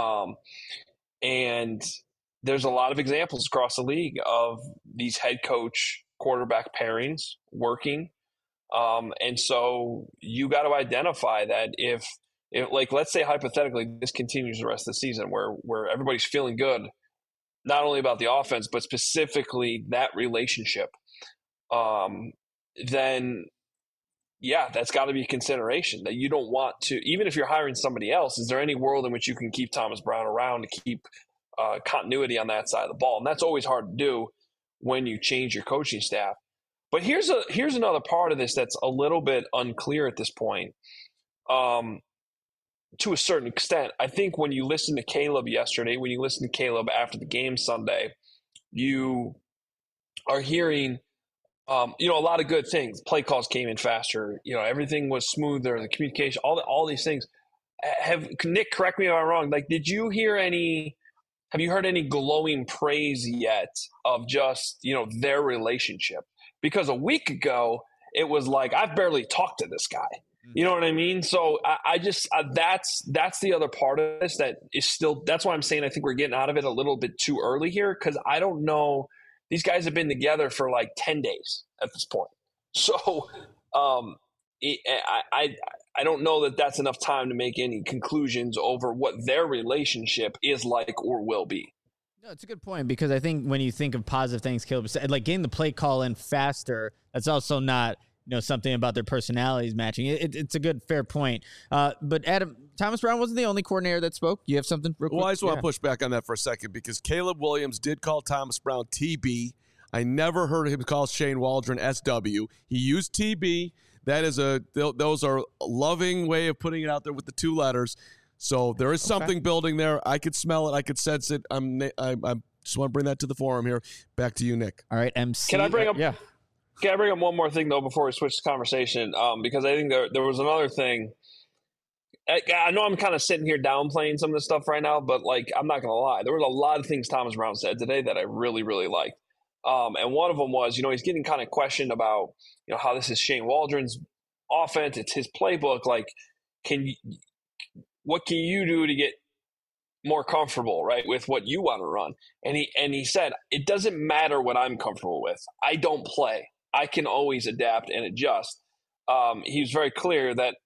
And there's a lot of examples across the league of these head coach quarterback pairings working. And so you got to identify that if like, let's say hypothetically this continues the rest of the season where everybody's feeling good, not only about the offense, but specifically that relationship, then yeah, that's got to be a consideration that you don't want to, even if you're hiring somebody else, is there any world in which you can keep Thomas Brown around to keep continuity on that side of the ball? And that's always hard to do when you change your coaching staff. But here's another part of this that's a little bit unclear at this point. To a certain extent, I think when you listen to Caleb yesterday, when you listen to Caleb after the game Sunday, you are hearing, a lot of good things. Play calls came in faster. Everything was smoother. The communication, all these things. Nick, correct me if I'm wrong. Like, have you heard any glowing praise yet of just, their relationship? Because a week ago, it was like, I've barely talked to this guy. You know what I mean? So I just that's the other part of this that is still. That's why I'm saying I think we're getting out of it a little bit too early here, because I don't know. These guys have been together for like 10 days at this point. So I don't know that that's enough time to make any conclusions over what their relationship is like or will be. No, it's a good point, because I think when you think of positive things Caleb said, like getting the play call in faster, that's also not something about their personalities matching. It's a good, fair point. But Adam, Thomas Brown wasn't the only coordinator that spoke. You have something real quick? Well, I just want to push back on that for a second, because Caleb Williams did call Thomas Brown TB. I never heard him call Shane Waldron SW. He used TB. That is those are a loving way of putting it out there with the 2 letters. So there is something building there. I could smell it. I could sense it. I just want to bring that to the forum here. Back to you, Nick. All right, MC. Can I bring up? Yeah. Can I bring up one more thing, though, before we switch the conversation? Because I think there was another thing. I know I'm kind of sitting here downplaying some of this stuff right now, but, like, I'm not going to lie. There was a lot of things Thomas Brown said today that I really, really liked. And one of them was, he's getting kind of questioned about, how this is Shane Waldron's offense. It's his playbook. Like, what can you do to get more comfortable, right, with what you want to run? And he said, it doesn't matter what I'm comfortable with. I don't play. I can always adapt and adjust. He was very clear that,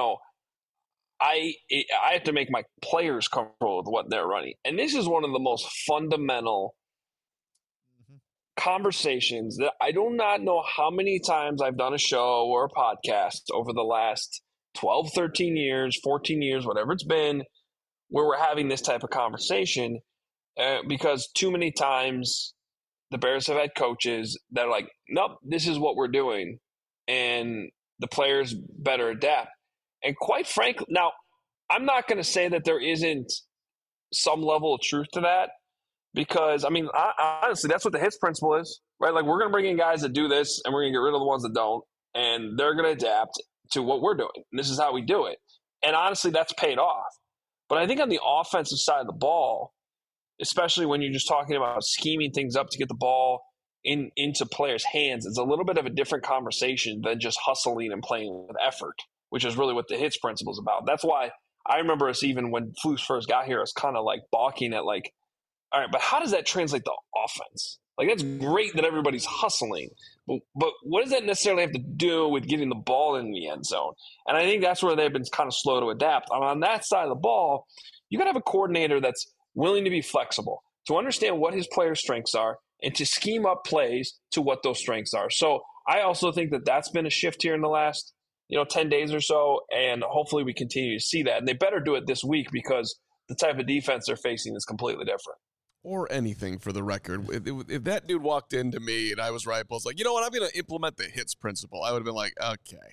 I have to make my players comfortable with what they're running. And this is one of the most fundamental conversations that I do not know how many times I've done a show or a podcast over the last 12, 13 years, 14 years, whatever it's been, where we're having this type of conversation, because too many times the Bears have had coaches that are like, nope, this is what we're doing, and the players better adapt. And quite frankly, now, I'm not going to say that there isn't some level of truth to that, because, honestly, that's what the HITS principle is, right? Like, we're going to bring in guys that do this, and we're going to get rid of the ones that don't, and they're going to adapt to what we're doing. And this is how we do it. And honestly, that's paid off. But I think on the offensive side of the ball, especially when you're just talking about scheming things up to get the ball into players' hands, it's a little bit of a different conversation than just hustling and playing with effort, which is really what the HITS principle is about. That's why I remember us, even when Flus first got here, us kind of like balking at like All right, but how does that translate to offense? Like, that's great that everybody's hustling, but what does that necessarily have to do with getting the ball in the end zone? And I think that's where they've been kind of slow to adapt. On that side of the ball, you got to have a coordinator that's willing to be flexible, to understand what his players' strengths are, and to scheme up plays to what those strengths are. So I also think that that's been a shift here in the last 10 days or so, and hopefully we continue to see that. And they better do it this week because the type of defense they're facing is completely different. Or anything, for the record. If that dude walked into me and I was right, I was like, you know what, I'm going to implement the hits principle. I would have been like, okay.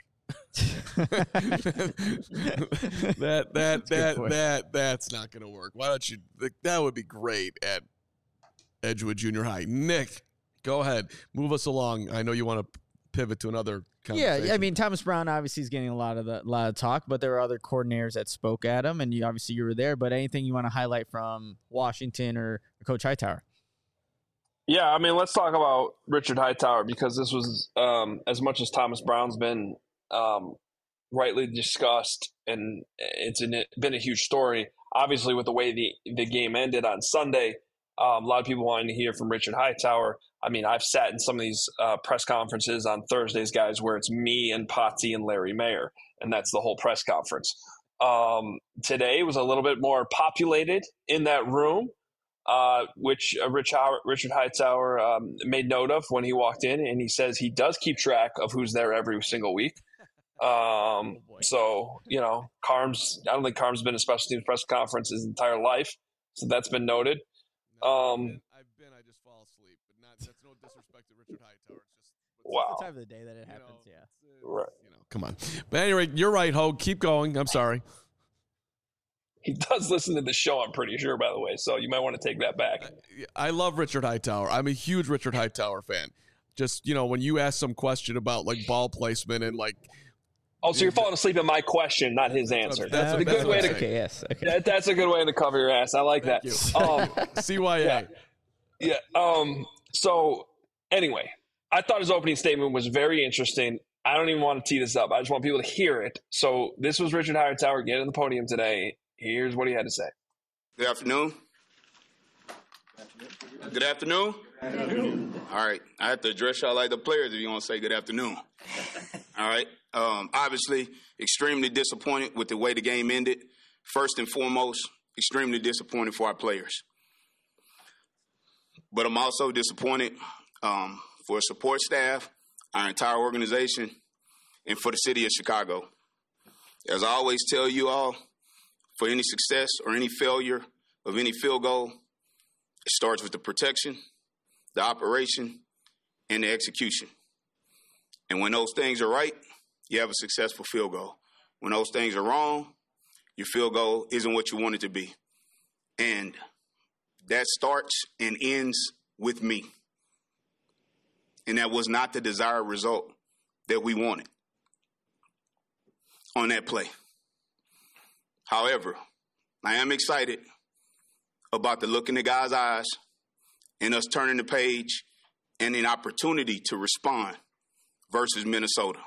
That's not going to work. Why don't you? That would be great at Edgewood Junior High. Nick, go ahead. Move us along. I know you want to pivot to another conversation. Yeah, I mean, Thomas Brown obviously is getting a lot of talk, but there are other coordinators that spoke at him, and you were there. But anything you want to highlight from Washington or Coach Hightower? Yeah, I mean, let's talk about Richard Hightower, because this was as much as Thomas Brown's been rightly discussed, and it's been a huge story. Obviously, with the way the game ended on Sunday, a lot of people wanting to hear from Richard Hightower. I mean, I've sat in some of these press conferences on Thursdays, guys, where it's me and Potsy and Larry Mayer, and that's the whole press conference. Today was a little bit more populated in that room, which Richard Hightower made note of when he walked in, and he says he does keep track of who's there every single week. So, Carms, I don't think Carms has been a special teams press conference his entire life, so that's been noted. I just fall asleep, but that's no disrespect to Richard Hightower. It's just wow. The time of the day that it happens, Right. Come on. But anyway, you're right, Hogue. Keep going. I'm sorry. He does listen to the show, I'm pretty sure, by the way, so you might want to take that back. I love Richard Hightower. I'm a huge Richard Hightower fan. Just, when you ask some question about, like, ball placement and, like, oh, so you're falling asleep at my question, not his answer. That's a good way to. Okay, yes. Okay. That's a good way to cover your ass. I like that. CYA. Yeah. So anyway, I thought his opening statement was very interesting. I don't even want to tee this up. I just want people to hear it. So this was Richard Hightower getting on the podium today. Here's what he had to say. Good afternoon. Good afternoon. Good afternoon. All right. I have to address y'all like the players if you want to say good afternoon. All right. Obviously, extremely disappointed with the way the game ended. First and foremost, extremely disappointed for our players. But I'm also disappointed for support staff, our entire organization, and for the city of Chicago. As I always tell you all, for any success or any failure of any field goal, it starts with the protection, the operation, and the execution. And when those things are right, you have a successful field goal. When those things are wrong, your field goal isn't what you want it to be. And that starts and ends with me. And that was not the desired result that we wanted on that play. However, I am excited about the look in the guy's eyes and us turning the page and an opportunity to respond versus Minnesota.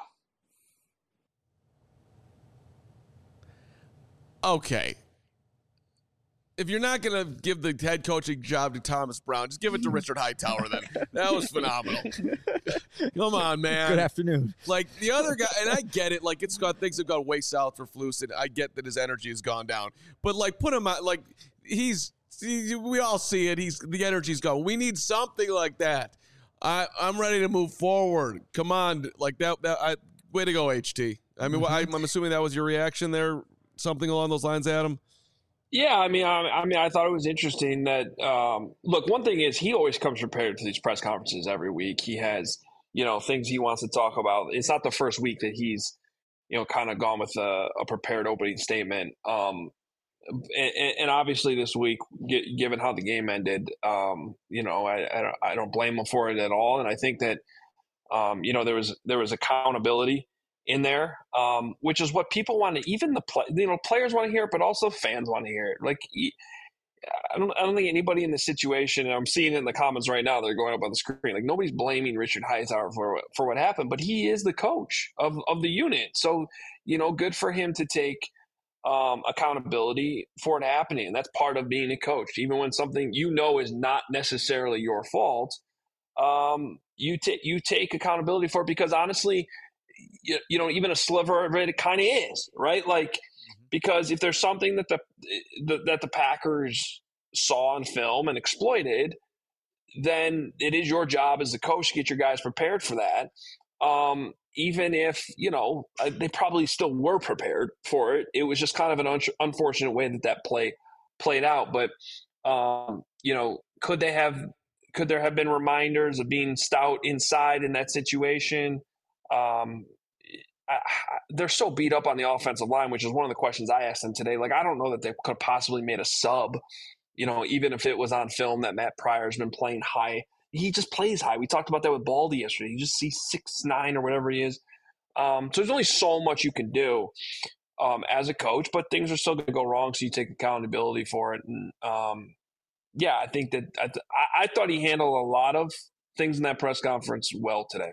Okay. If you're not going to give the head coaching job to Thomas Brown, just give it to Richard Hightower then. That was phenomenal. Come on, man. Good afternoon. Like, the other guy, and I get it, like, things have gone way south for Flus, and I get that his energy has gone down. But, like, put him out, like, we all see it. The energy's gone. We need something like that. I'm ready to move forward. Come on. Like, way to go, HT. I mean, I'm assuming that was your reaction there, something along those lines, Adam? Yeah, I mean, I thought it was interesting that look, one thing is he always comes prepared to these press conferences every week. He has, things he wants to talk about. It's not the first week that he's, kind of gone with a prepared opening statement. And obviously this week, given how the game ended, I don't blame him for it at all. And I think that, there was accountability in there, which is what people want to, even players want to hear it, but also fans want to hear it. Like, I don't think anybody in the situation, and I'm seeing it in the comments right now, they're going up on the screen, like nobody's blaming Richard Hightower for what happened, but he is the coach of the unit. So, good for him to take accountability for it happening. And that's part of being a coach. Even when something is not necessarily your fault, you take accountability for it, because honestly, even a sliver of it kind of is, right? Like, because if there's something that the Packers saw on film and exploited, then it is your job as the coach to get your guys prepared for that. Even if, they probably still were prepared for it. It was just kind of an unfortunate way that played out. But, could there have been reminders of being stout inside in that situation? They're so beat up on the offensive line, which is one of the questions I asked them today. Like, I don't know that they could have possibly made a sub, even if it was on film that Matt Pryor's been playing high. He just plays high. We talked about that with Baldy yesterday. You just see 6'9" or whatever he is. So there's only so much you can do as a coach, but things are still going to go wrong, so you take accountability for it. And, I think that I thought he handled a lot of things in that press conference well today.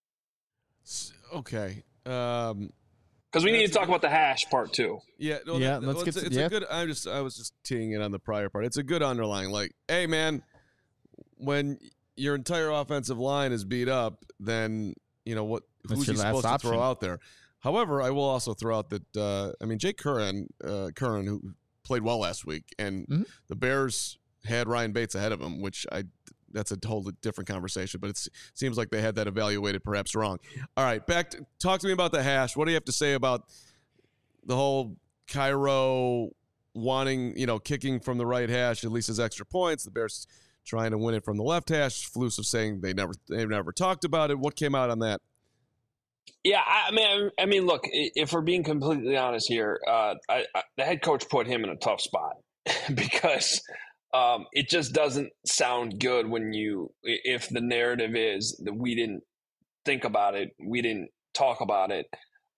Okay. Because we need to talk about the hash part too. Yeah, let's get it's a good. I was just teeing it on the prior part. It's a good underlying. Like, hey man, when your entire offensive line is beat up, then who's he supposed to throw out there? However, I will also throw out that Jake Curran, who played well last week, and the Bears had Ryan Bates ahead of him, which that's a totally different conversation, but it seems like they had that evaluated perhaps wrong. All right, talk to me about the hash. What do you have to say about the whole Cairo wanting, kicking from the right hash, at least as extra points, the Bears trying to win it from the left hash, Flus saying they've never talked about it. What came out on that? Yeah, I mean, look, if we're being completely honest here, the head coach put him in a tough spot because it just doesn't sound good if the narrative is that we didn't think about it, we didn't talk about it,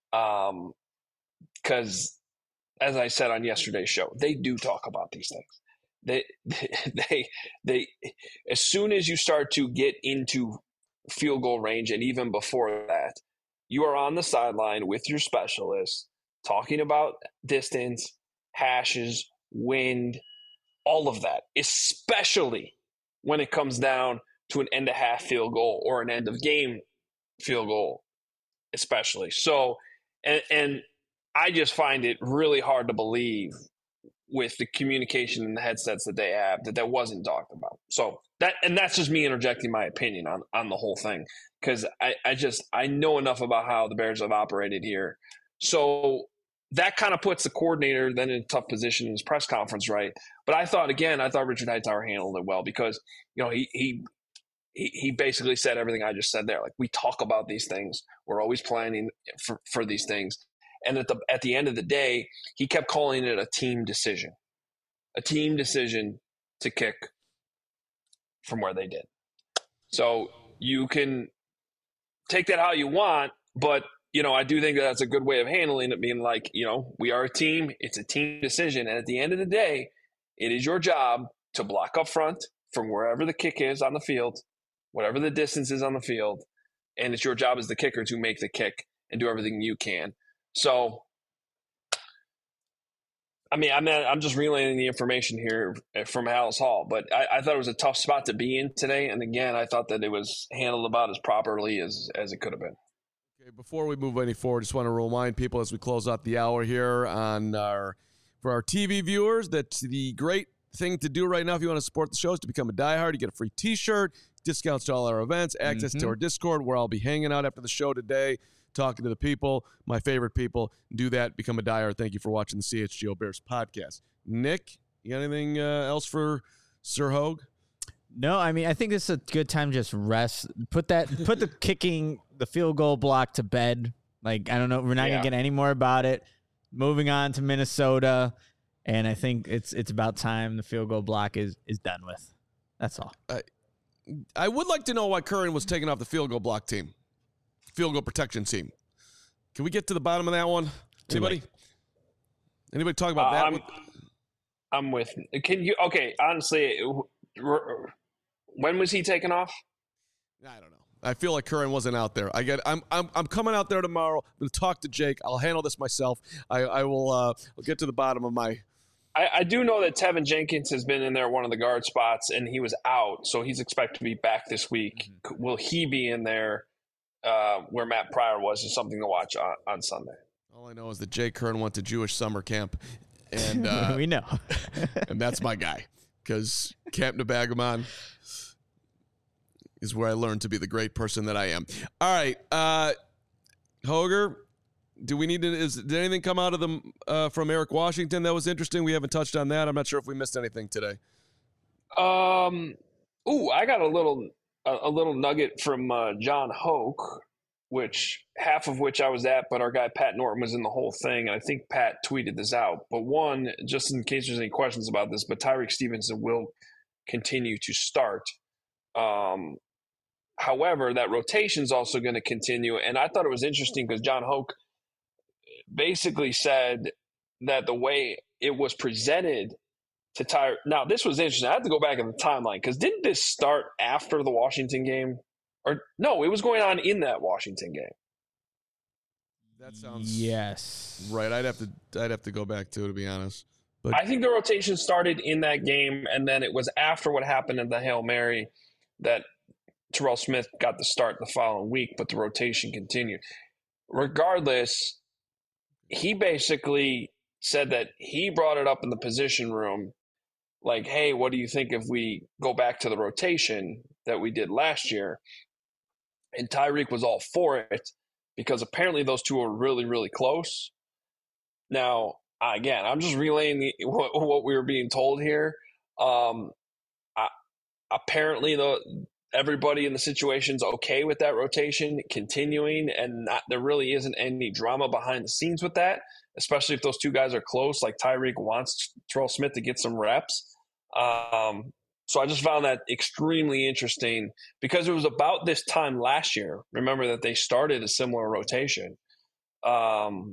because as I said on yesterday's show, they do talk about these things. They as soon as you start to get into field goal range, and even before that, you are on the sideline with your specialists talking about distance, hashes, wind, all of that, especially when it comes down to an end-of-half field goal or an end-of-game field goal, especially. So, and I just find it really hard to believe with the communication and the headsets that they have that wasn't talked about. So that's just me interjecting my opinion on the whole thing, because I know enough about how the Bears have operated here. So that kind of puts the coordinator then in a tough position in his press conference, right? But I thought Richard Hightower handled it well, because he basically said everything I just said there. Like, we talk about these things, we're always planning for these things, and at the end of the day, he kept calling it a team decision to kick from where they did. So you can take that how you want, but I do think that's a good way of handling it, being like, we are a team. It's a team decision. And at the end of the day, it is your job to block up front from wherever the kick is on the field, whatever the distance is on the field. And it's your job as the kicker to make the kick and do everything you can. So, I'm just relaying the information here from Halas Hall, but I thought it was a tough spot to be in today. And again, I thought that it was handled about as properly as it could have been. Okay, before we move any forward, just want to remind people as we close out the hour here for our TV viewers that the great thing to do right now if you want to support the show is to become a diehard. You get a free T-shirt, discounts to all our events, access to our Discord where I'll be hanging out after the show today, talking to the people, my favorite people. Do that, become a diehard. Thank you for watching the CHGO Bears podcast. Nick, you got anything else for Sir Hogue? No, I think this is a good time to just rest. Put the kicking, the field goal block to bed. Like, I don't know. We're not going to get any more about it. Moving on to Minnesota. And I think it's about time the field goal block is done with. That's all. I would like to know why Curran was taken off the field goal block team. Field goal protection team. Can we get to the bottom of that one? Anybody talk about that? I'm with. Can you? Okay, honestly, when was he taken off? I don't know. I feel like Curran wasn't out there. I'm coming out there tomorrow. I'm going to talk to Jake. I'll handle this myself. I will I'll get to the bottom of my. I do know that Tevin Jenkins has been in there, one of the guard spots, and he was out, so he's expected to be back this week. Mm-hmm. Will he be in there where Matt Pryor was? Is something to watch on Sunday. All I know is that Jake Curran went to Jewish summer camp, and we know, and that's my guy because Camp Nebagamon is where I learned to be the great person that I am. All right, Hoger. Do we need to? Did anything come out of the from Eric Washington that was interesting? We haven't touched on that. I'm not sure if we missed anything today. I got a little nugget from John Hoke, which half of which I was at, but our guy Pat Norton was in the whole thing, and I think Pat tweeted this out. But one, just in case there's any questions about this, but Tyreek Stevenson will continue to start. However, that rotation is also going to continue, and I thought it was interesting because John Hoke basically said that the way it was presented to Tyreek. Now, this was interesting. I have to go back in the timeline because didn't this start after the Washington game? Or no, it was going on in that Washington game. That sounds yes, right. I'd have to go back to be honest. But I think the rotation started in that game, and then it was after what happened in the Hail Mary that Terrell Smith got the start the following week, but the rotation continued. Regardless, he basically said that he brought it up in the position room, like, hey, what do you think if we go back to the rotation that we did last year? And Tyreek was all for it because apparently those two are really, really close. Now, again, I'm just relaying what we were being told here. Apparently, everybody in the situation's okay with that rotation continuing, and there really isn't any drama behind the scenes with that, especially if those two guys are close, like Tyreek wants Terrell Smith to get some reps. So I just found that extremely interesting because it was about this time last year. Remember that they started a similar rotation, and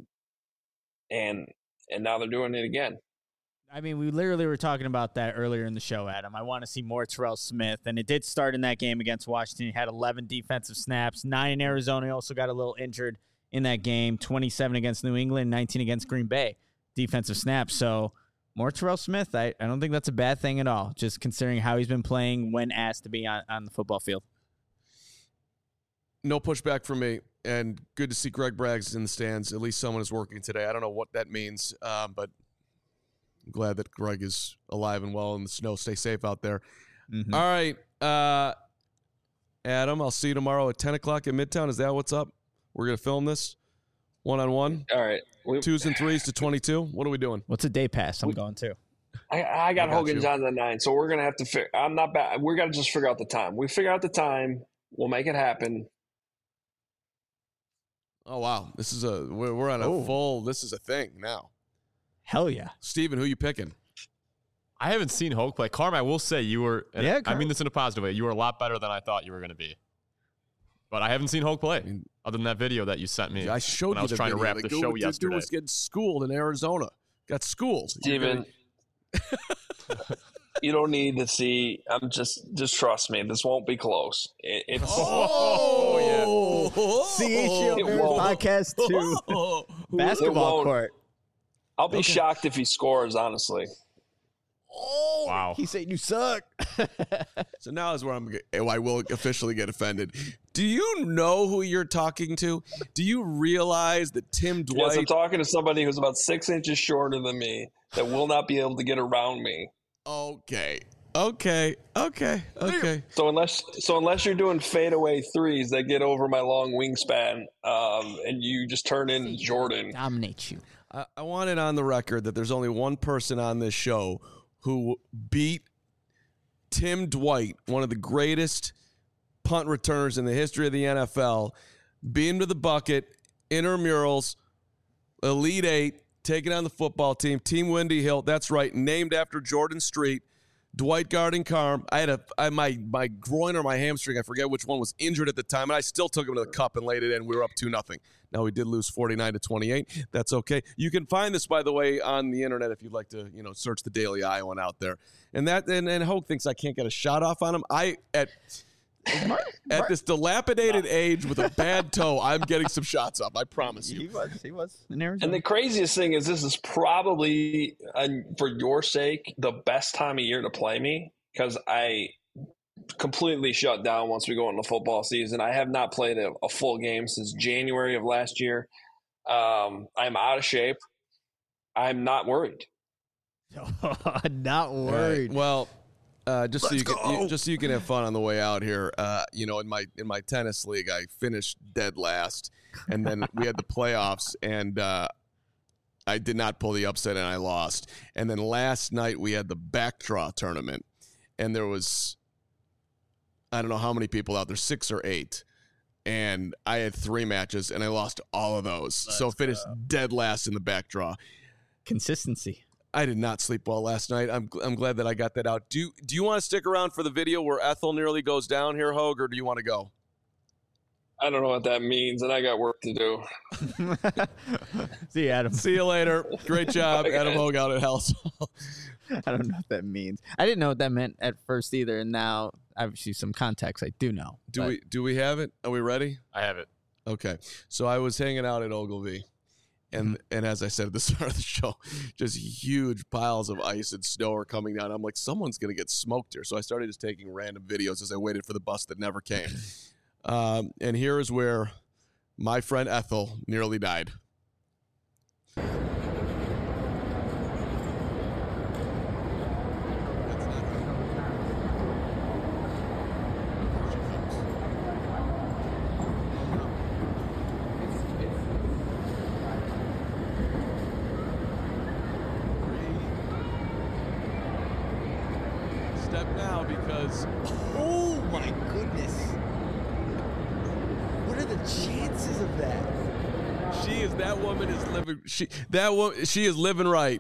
now they're doing it again. I mean, we literally were talking about that earlier in the show, Adam. I want to see more Terrell Smith, and it did start in that game against Washington. He had 11 defensive snaps, 9 in Arizona. He also got a little injured in that game, 27 against New England, 19 against Green Bay, defensive snaps. So more Terrell Smith, I don't think that's a bad thing at all, just considering how he's been playing when asked to be on the football field. No pushback from me, and good to see Greg Braggs in the stands. At least someone is working today. I don't know what that means, but I'm glad that Greg is alive and well in the snow. Stay safe out there. Mm-hmm. All right, Adam, I'll see you tomorrow at 10 o'clock at Midtown. Is that what's up? We're going to film this one-on-one? All right. 2s and 3s to 22. What are we doing? What's a day pass? I'm going to. I got Hogan Johns at 9, so we're going to have to figure – I'm not bad. We're going to just figure out the time. We figure out the time. We'll make it happen. Oh, wow. This is we're on a full – this is a thing now. Hell yeah. Steven, who you picking? I haven't seen Hoke play. Carm, I will say you were – yeah, I mean this in a positive way. You were a lot better than I thought you were going to be. But I haven't seen Hoke play, other than that video that you sent me. I showed when you I was trying to wrap the show yesterday. This dude was getting schooled in Arizona. Got schooled. Steven, you don't need to see. I'm just trust me. This won't be close. It's CHGO podcast 2 basketball court. I'll be shocked if he scores, honestly. Oh, wow. He said you suck. So now is where I will officially get offended. Do you know who you're talking to? Do you realize that Tim Dwight... Yes, I'm talking to somebody who's about 6 inches shorter than me that will not be able to get around me. Okay. So unless you're doing fadeaway threes that get over my long wingspan, and you just turn in Jordan. Dominate you. I want it on the record that there's only one person on this show who beat Tim Dwight, one of the greatest punt returners in the history of the NFL, beat him to the bucket, intramurals, Elite Eight, taking on the football team, Team Windy Hill. That's right, named after Jordan Street. Dwight guarding Carm. I had my groin or my hamstring, I forget which one, was injured at the time, and I still took him to the cup and laid it in. We were up 2-0. Now we did lose 49-28. That's okay. You can find this, by the way, on the internet if you'd like to, search the Daily Iowan out there. And Hoke thinks I can't get a shot off on him. At this dilapidated age with a bad toe, I'm getting some shots up. I promise you. He was in Arizona. And the craziest thing is this is probably, for your sake, the best time of year to play me because I completely shut down once we go into football season. I have not played a full game since January of last year. I'm out of shape. I'm not worried. Not worried. Right. Well, just so you can have fun on the way out here. In my tennis league, I finished dead last, and then we had the playoffs, and I did not pull the upset, and I lost. And then last night we had the backdraw tournament, and there was, I don't know how many people out there, 6 or 8. And I had 3 matches, and I lost all of those. So finished dead last in the backdraw. Consistency. I did not sleep well last night. I'm glad that I got that out. Do you want to stick around for the video where Ethel nearly goes down here, Hogue, or do you want to go? I don't know what that means, and I got work to do. See you, Adam. See you later. Great job, Bye, Adam guys. Hogue out at House. I don't know what that means. I didn't know what that meant at first either, and now obviously some context I do know. Do we have it? Are we ready? I have it. Okay. So I was hanging out at Ogilvy, and as I said at the start of the show, just huge piles of ice and snow are coming down. I'm like, someone's going to get smoked here. So I started just taking random videos as I waited for the bus that never came. And here is where my friend Ethel nearly died. Step now because Oh my goodness! What are the chances of that? that woman is living. She is living right.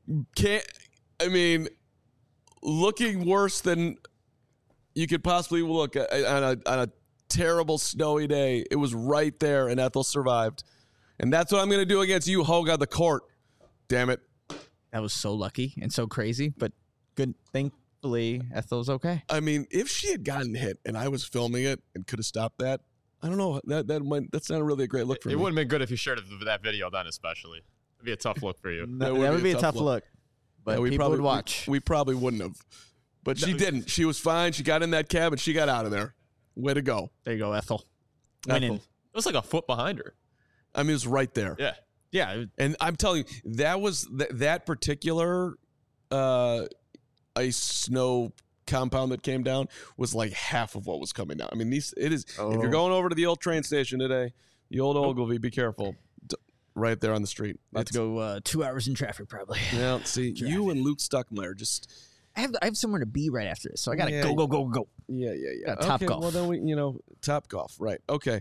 Looking worse than you could possibly look on a terrible snowy day. It was right there, and Ethel survived. And that's what I'm going to do against you, Hogue, on the court. Damn it. That was so lucky and so crazy, but good. Thankfully, Ethel's okay. I mean, if she had gotten hit and I was filming it and could have stopped that, I don't know. That's not really a great look for me. It wouldn't have been good if you shared that video then, especially. It'd be a tough look for you. That would be a tough look. But we people probably would watch. We probably wouldn't have. But she didn't. She was fine. She got in that cab and she got out of there. Way to go. There you go, Ethel. Ethel. Winning. It was like a foot behind her. I mean, it was right there. Yeah. Yeah. And I'm telling you, that was that particular ice snow compound that came down was like half of what was coming down. I mean, if you're going over to the old train station today, the old Ogilvy, be careful. Right there on the street. About to go 2 hours in traffic, probably. Yeah, see, you and Luke Stuckmeyer just... I have somewhere to be right after this, so I got to go. Yeah. Top golf. Well, then Top Golf, right. Okay.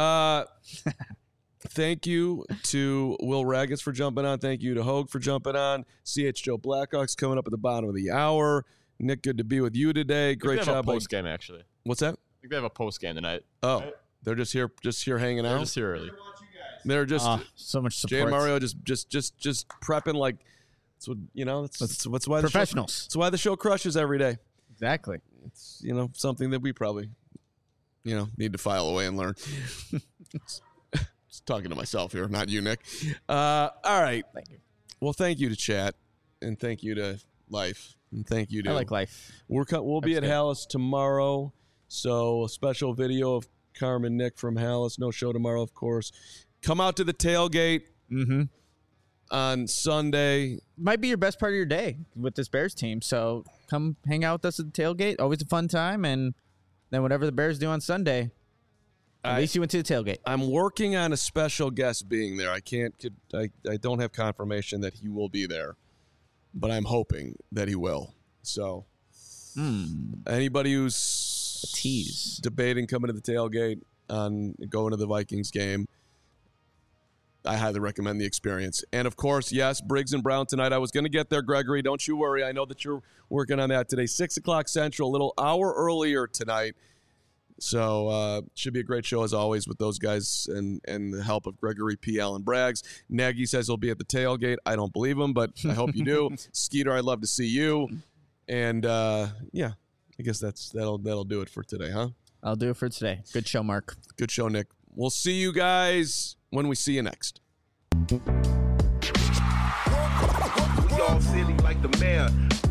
Thank you to Will Raggis for jumping on. Thank you to Hogue for jumping on. CH Joe Blackhawks coming up at the bottom of the hour. Nick, good to be with you today. Great job. They have a post game, actually. What's that? I think they have a post game tonight. Oh, they're just here hanging out. They're just here early. They're just so much support. Jay and Mario just prepping like that's what that's why professionals. That's why the show crushes every day. Exactly. It's something that we probably need to file away and learn. Just talking to myself here, not you, Nick. All right. Thank you. Well, thank you to chat, and thank you to Life, and thank you to I like Life. We'll be at good. Hallis tomorrow, so a special video of Carmen Nick from Hallis. No show tomorrow, of course. Come out to the tailgate on Sunday. Might be your best part of your day with this Bears team. So come hang out with us at the tailgate. Always a fun time. And then whatever the Bears do on Sunday, at least you went to the tailgate. I'm working on a special guest being there. I don't have confirmation that he will be there, but I'm hoping that he will. So anybody who's A tease. debating coming to the tailgate on going to the Vikings game, I highly recommend the experience. And, of course, yes, Briggs and Brown tonight. I was going to get there, Gregory. Don't you worry. I know that you're working on that today. 6 o'clock Central, a little hour earlier tonight. So should be a great show, as always, with those guys and the help of Gregory P. Allen Braggs. Nagy says he'll be at the tailgate. I don't believe him, but I hope you do. Skeeter, I'd love to see you. And, I guess that'll do it for today, huh? I'll do it for today. Good show, Mark. Good show, Nick. We'll see you guys when we see you next. We all silly like the mayor.